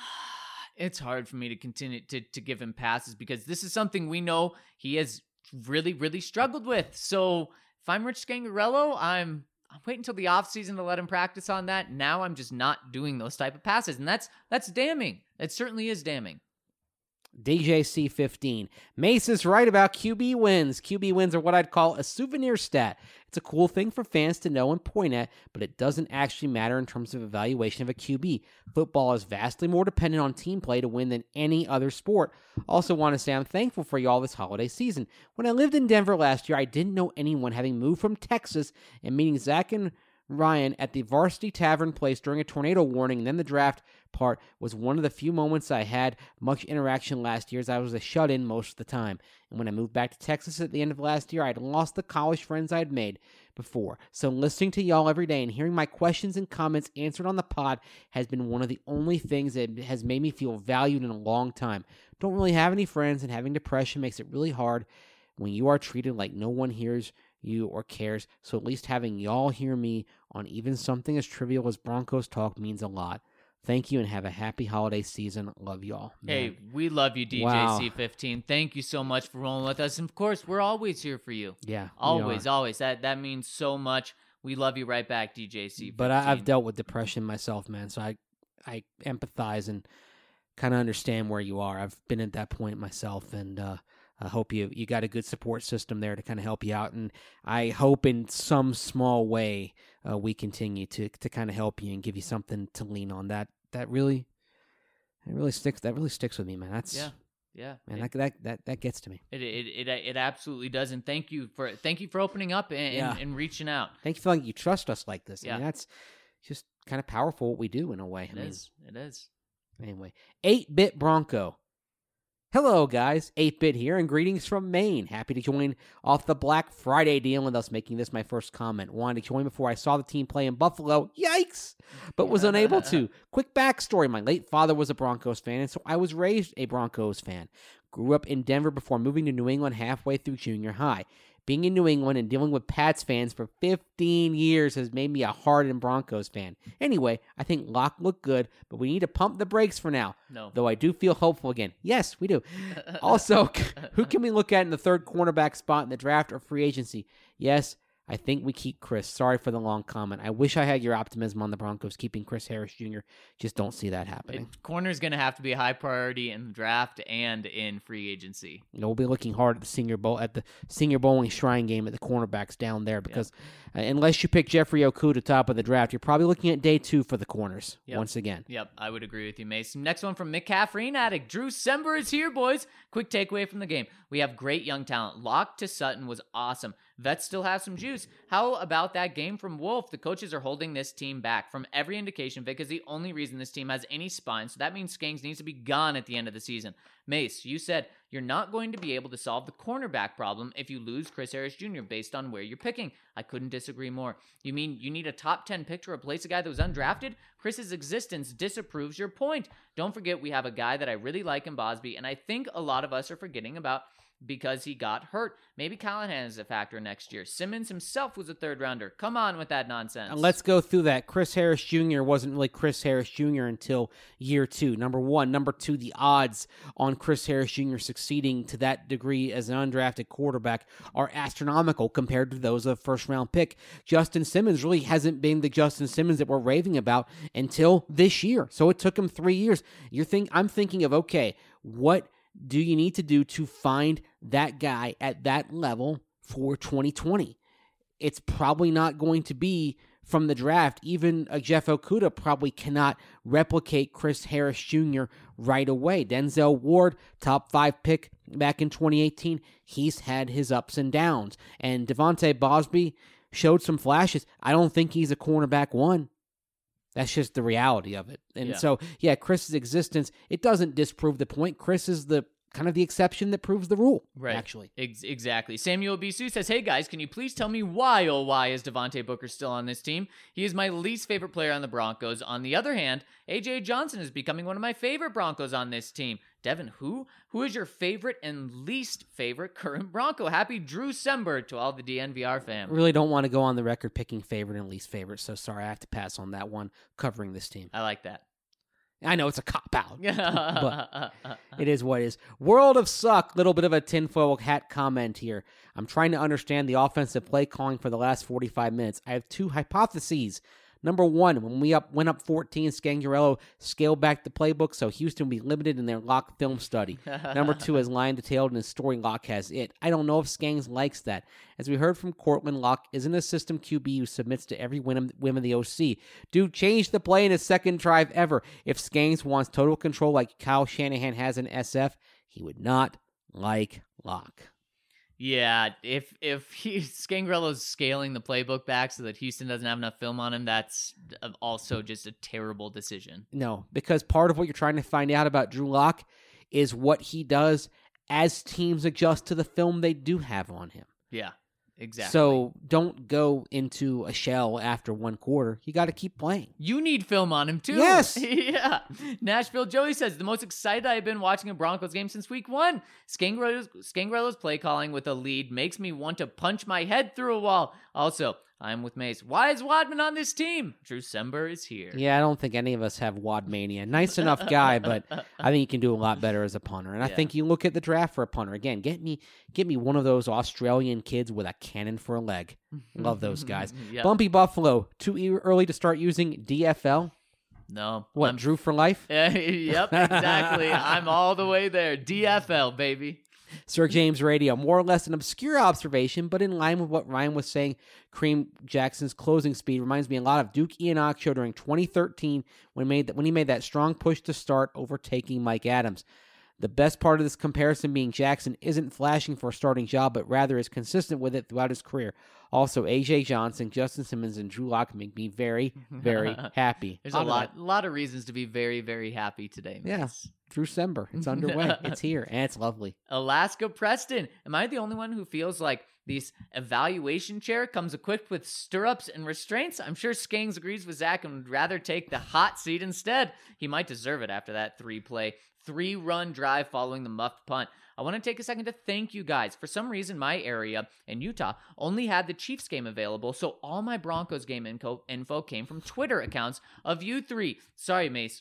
It's hard for me to continue to, to give him passes because this is something we know he has really, really struggled with. So if I'm Rich Scangarello, I'm I'm waiting until the offseason to let him practice on that. Now I'm just not doing those type of passes. And that's that's damning. It certainly is damning. D J C fifteen. Mace is right about Q B wins. Q B wins are what I'd call a souvenir stat. It's a cool thing for fans to know and point at, but it doesn't actually matter in terms of evaluation of a Q B. Football is vastly more dependent on team play to win than any other sport. Also want to say I'm thankful for y'all this holiday season. When I lived in Denver last year, I didn't know anyone, having moved from Texas and meeting Zach and Ryan at the Varsity Tavern place during a tornado warning, and then the draft part was one of the few moments I had much interaction last year, as I was a shut-in most of the time. And when I moved back to Texas at the end of last year, I had lost the college friends I had made before. So listening to y'all every day and hearing my questions and comments answered on the pod has been one of the only things that has made me feel valued in a long time. Don't really have any friends, and having depression makes it really hard when you are treated like no one hears you or cares. So at least having y'all hear me on even something as trivial as Broncos talk means a lot. Thank you and have a happy holiday season. Love y'all. Man. Hey, we love you, D J C fifteen. Wow. Thank you so much for rolling with us. And of course, we're always here for you. Yeah. Always, always. That that means so much. We love you right back, D J C fifteen. But I, I've dealt with depression myself, man. So I, I empathize and kind of understand where you are. I've been at that point myself, and uh, I hope you you got a good support system there to kind of help you out. And I hope in some small way uh, we continue to to kind of help you and give you something to lean on. That that really, it really sticks. That really sticks with me, man. That's yeah, yeah, man. It, that, that that that gets to me. It it it it absolutely does. And thank you for thank you for opening up and, Yeah. and, and reaching out. Thank you for like you trust us like this. I Yeah. mean, that's just kind of powerful what we do in a way. It I mean, is. It is. Anyway, eight-Bit Bronco. Hello, guys. eight-Bit here, and greetings from Maine. Happy to join off the Black Friday deal, and thus making this my first comment. Wanted to join before I saw the team play in Buffalo. Yikes! But was unable to. Quick backstory. My late father was a Broncos fan, and so I was raised a Broncos fan. Grew up in Denver before moving to New England halfway through junior high. Being in New England and dealing with Pats fans for fifteen years has made me a hardened Broncos fan. Anyway, I think Locke looked good, but we need to pump the brakes for now. No. Though I do feel hopeful again. Yes, we do. Also, who can we look at in the third cornerback spot in the draft or free agency? Yes, I think we keep Chris. Sorry for the long comment. I wish I had your optimism on the Broncos keeping Chris Harris Junior Just don't see that happening. It, corner's going to have to be a high priority in the draft and in free agency. You know, we'll be looking hard at the Senior Bowl at the Senior Bowling Shrine game at the cornerbacks down there because yep. uh, unless you pick Jeffrey Okudah top of the draft, you're probably looking at day two for the corners yep. once again. Yep, I would agree with you, Mason. Next one from McCaffrey addict. Drew Sember is here, boys. Quick takeaway from the game. We have great young talent. Locke to Sutton was awesome. Vets still have some juice. How about that game from Wolf? The coaches are holding this team back. From every indication, Vic is the only reason this team has any spine, so that means Skangs needs to be gone at the end of the season. Mace, you said you're not going to be able to solve the cornerback problem if you lose Chris Harris Junior based on where you're picking. I couldn't disagree more. You mean you need a top ten pick to replace a guy that was undrafted? Chris's existence disapproves your point. Don't forget we have a guy that I really like in Bosby, and I think a lot of us are forgetting about because he got hurt. Maybe Callahan is a factor next year. Simmons himself was a third rounder. Come on with that nonsense. And let's go through that. Chris Harris Junior wasn't really Chris Harris Junior until year two. Number one. Number two, the odds on Chris Harris Junior succeeding to that degree as an undrafted quarterback are astronomical compared to those of first-round pick. Justin Simmons really hasn't been the Justin Simmons that we're raving about until this year. So it took him three years. You're think I'm thinking of, okay, what do you need to do to find that guy at that level for twenty twenty? It's probably not going to be from the draft. Even uh, Jeff Okudah probably cannot replicate Chris Harris Junior right away. Denzel Ward, top five pick back in twenty eighteen, he's had his ups and downs. And Devontae Bosby showed some flashes. I don't think he's a cornerback one. That's just the reality of it. And Yeah. so, yeah, Chris's existence, it doesn't disprove the point. Chris is the kind of the exception that proves the rule, Right. actually. Ex- exactly. Samuel Bisu says, hey guys, can you please tell me why, oh why, is Devontae Booker still on this team? He is my least favorite player on the Broncos. On the other hand, A J Johnson is becoming one of my favorite Broncos on this team. Devin, who? Who is your favorite and least favorite current Bronco? Happy Drew Sember to all the D N V R fam. Really don't want to go on the record picking favorite and least favorite, so sorry, I have to pass on that one covering this team. I like that. I know it's a cop-out, but but it is what it is. World of Suck, little bit of a tinfoil hat comment here. I'm trying to understand the offensive play calling for the last forty-five minutes. I have two hypotheses. Number one, when we up went up fourteen, Scangarello scaled back the playbook so Houston would be limited in their lock film study. Number two, as Lion detailed in his story, Locke has it. I don't know if Skangs likes that. As we heard from Cortland, Locke isn't a system Q B who submits to every whim whim of the O C. Dude, change the play in his second drive ever. If Skangs wants total control like Kyle Shanahan has in S F, he would not like Locke. Yeah, if if he, Scangarello's scaling the playbook back so that Houston doesn't have enough film on him, that's also just a terrible decision. No, because part of what you're trying to find out about Drew Lock is what he does as teams adjust to the film they do have on him. Yeah, exactly. So don't go into a shell after one quarter. You got to keep playing. You need film on him, too. Yes. Yeah. Nashville Joey says, the most excited I've been watching a Broncos game since week one. Scangarello's, Scangarello's play calling with a lead makes me want to punch my head through a wall. Also, I'm with Mace. Why is Wadman on this team? Drew Sember is here. Yeah, I don't think any of us have Wad Mania. Nice enough guy, but I think he can do a lot better as a punter. And I Yeah. think you look at the draft for a punter. Again, get me get me one of those Australian kids with a cannon for a leg. Love those guys. Yep. Bumpy Buffalo, too e- early to start using D F L? No. What, I'm- Drew for life? Yep, exactly. I'm all the way there. D F L, baby. Sir James Radio, more or less an obscure observation, but in line with what Ryan was saying, Kareem Jackson's closing speed reminds me a lot of Duke Iheanacho during twenty thirteen when, made that, when he made that strong push to start, overtaking Mike Adams. The best part of this comparison being Jackson isn't flashing for a starting job, but rather is consistent with it throughout his career. Also, A J Johnson, Justin Simmons, and Drew Lock make me very, very happy. There's a of lot, that. lot of reasons to be very, very happy today. Yeah. Mace. Drew Sember. It's underway. It's here, and it's lovely. Alaska Preston. Am I the only one who feels like this evaluation chair comes equipped with stirrups and restraints? I'm sure Skangs agrees with Zach and would rather take the hot seat instead. He might deserve it after that three-play, three-run drive following the muffed punt. I want to take a second to thank you guys. For some reason, my area in Utah only had the Chiefs game available, so all my Broncos game info, info came from Twitter accounts of you three. Sorry, Mace.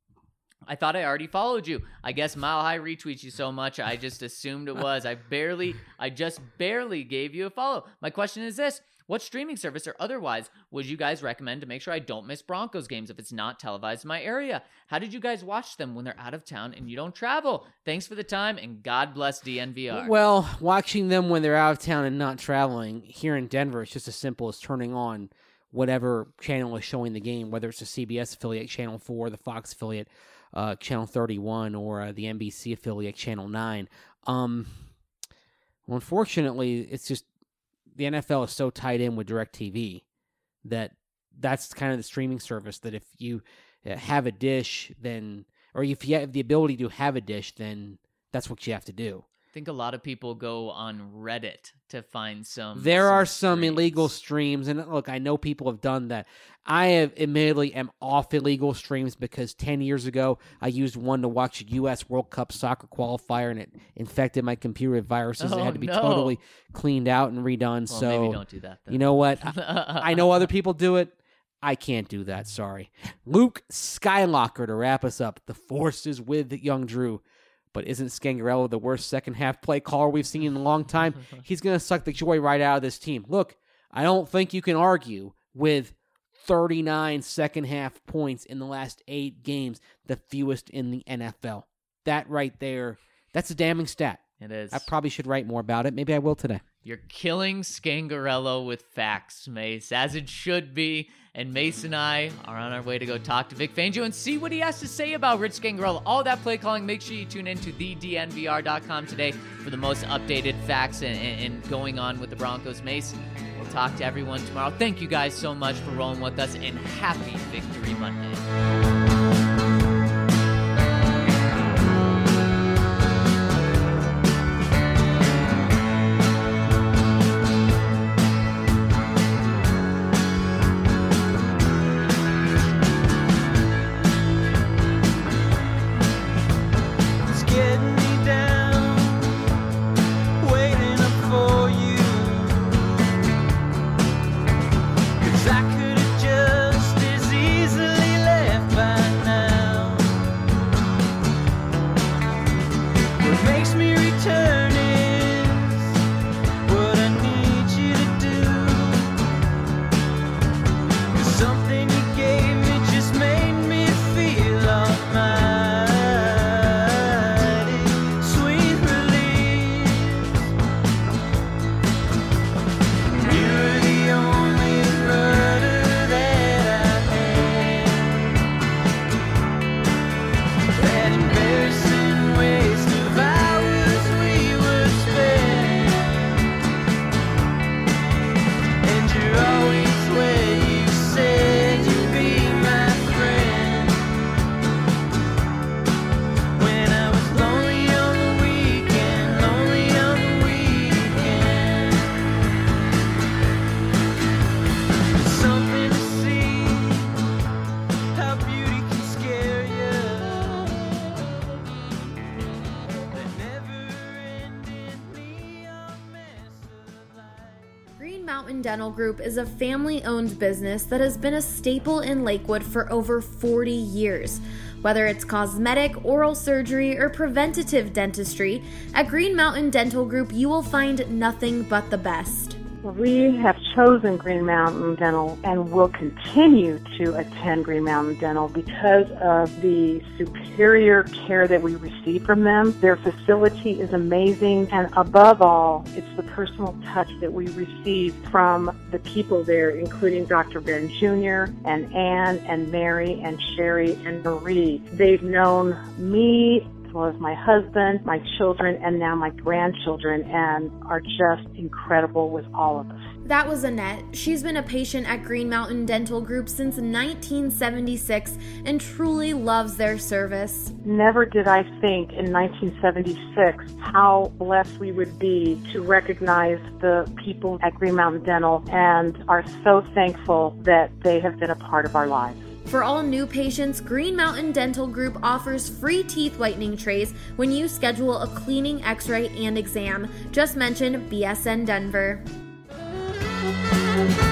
I thought I already followed you. I guess Mile High retweets you so much, I just assumed it was. I barely, I just barely gave you a follow. My question is this. What streaming service or otherwise would you guys recommend to make sure I don't miss Broncos games if it's not televised in my area? How did you guys watch them when they're out of town and you don't travel? Thanks for the time, and God bless D N V R. Well, watching them when they're out of town and not traveling here in Denver, it's just as simple as turning on whatever channel is showing the game, whether it's the C B S affiliate, Channel four, the Fox affiliate, uh, Channel thirty-one, or uh, the N B C affiliate, Channel nine. Um, well, unfortunately, it's just the N F L is so tied in with DirecTV that that's kind of the streaming service that if you have a dish, then, or if you have the ability to have a dish, then that's what you have to do. I think a lot of people go on Reddit to find some. There are some streams. illegal streams, and look, I know people have done that. I have admittedly am off illegal streams because ten years ago I used one to watch a U S World Cup soccer qualifier, and it infected my computer with viruses that Oh, had to be no. totally cleaned out and redone. Well, so maybe don't do that. Then. you know what? I, I know other people do it. I can't do that. Sorry. Luke Skylocker to wrap us up. The force is with young Drew. But isn't Scangarello the worst second half play caller we've seen in a long time? He's going to suck the joy right out of this team. Look, I don't think you can argue with thirty-nine second half points in the last eight games, the fewest in the N F L. That right there, that's a damning stat. It is. I probably should write more about it. Maybe I will today. You're killing Scangarello with facts, Mace, as it should be. And Mace and I are on our way to go talk to Vic Fangio and see what he has to say about Rich Scangarello. All that play calling, make sure you tune in to the D N V R dot com today for the most updated facts and, and, and going on with the Broncos. Mace, we'll talk to everyone tomorrow. Thank you guys so much for rolling with us, and happy Victory Monday. Dental Group is a family-owned business that has been a staple in Lakewood for over forty years. Whether it's cosmetic, oral surgery, or preventative dentistry, at Green Mountain Dental Group you will find nothing but the best. We have chosen Green Mountain Dental and will continue to attend Green Mountain Dental because of the superior care that we receive from them. Their facility is amazing, and above all, it's the personal touch that we receive from the people there, including Doctor Ben Junior and Ann and Mary and Sherry and Marie. They've known me as well as my husband, my children, and now my grandchildren, and are just incredible with all of us. That was Annette. She's been a patient at Green Mountain Dental Group since nineteen seventy-six and truly loves their service. Never did I think in nineteen seventy-six how blessed we would be to recognize the people at Green Mountain Dental, and are so thankful that they have been a part of our lives. For all new patients, Green Mountain Dental Group offers free teeth whitening trays when you schedule a cleaning, x-ray, and exam. Just mention B S N Denver.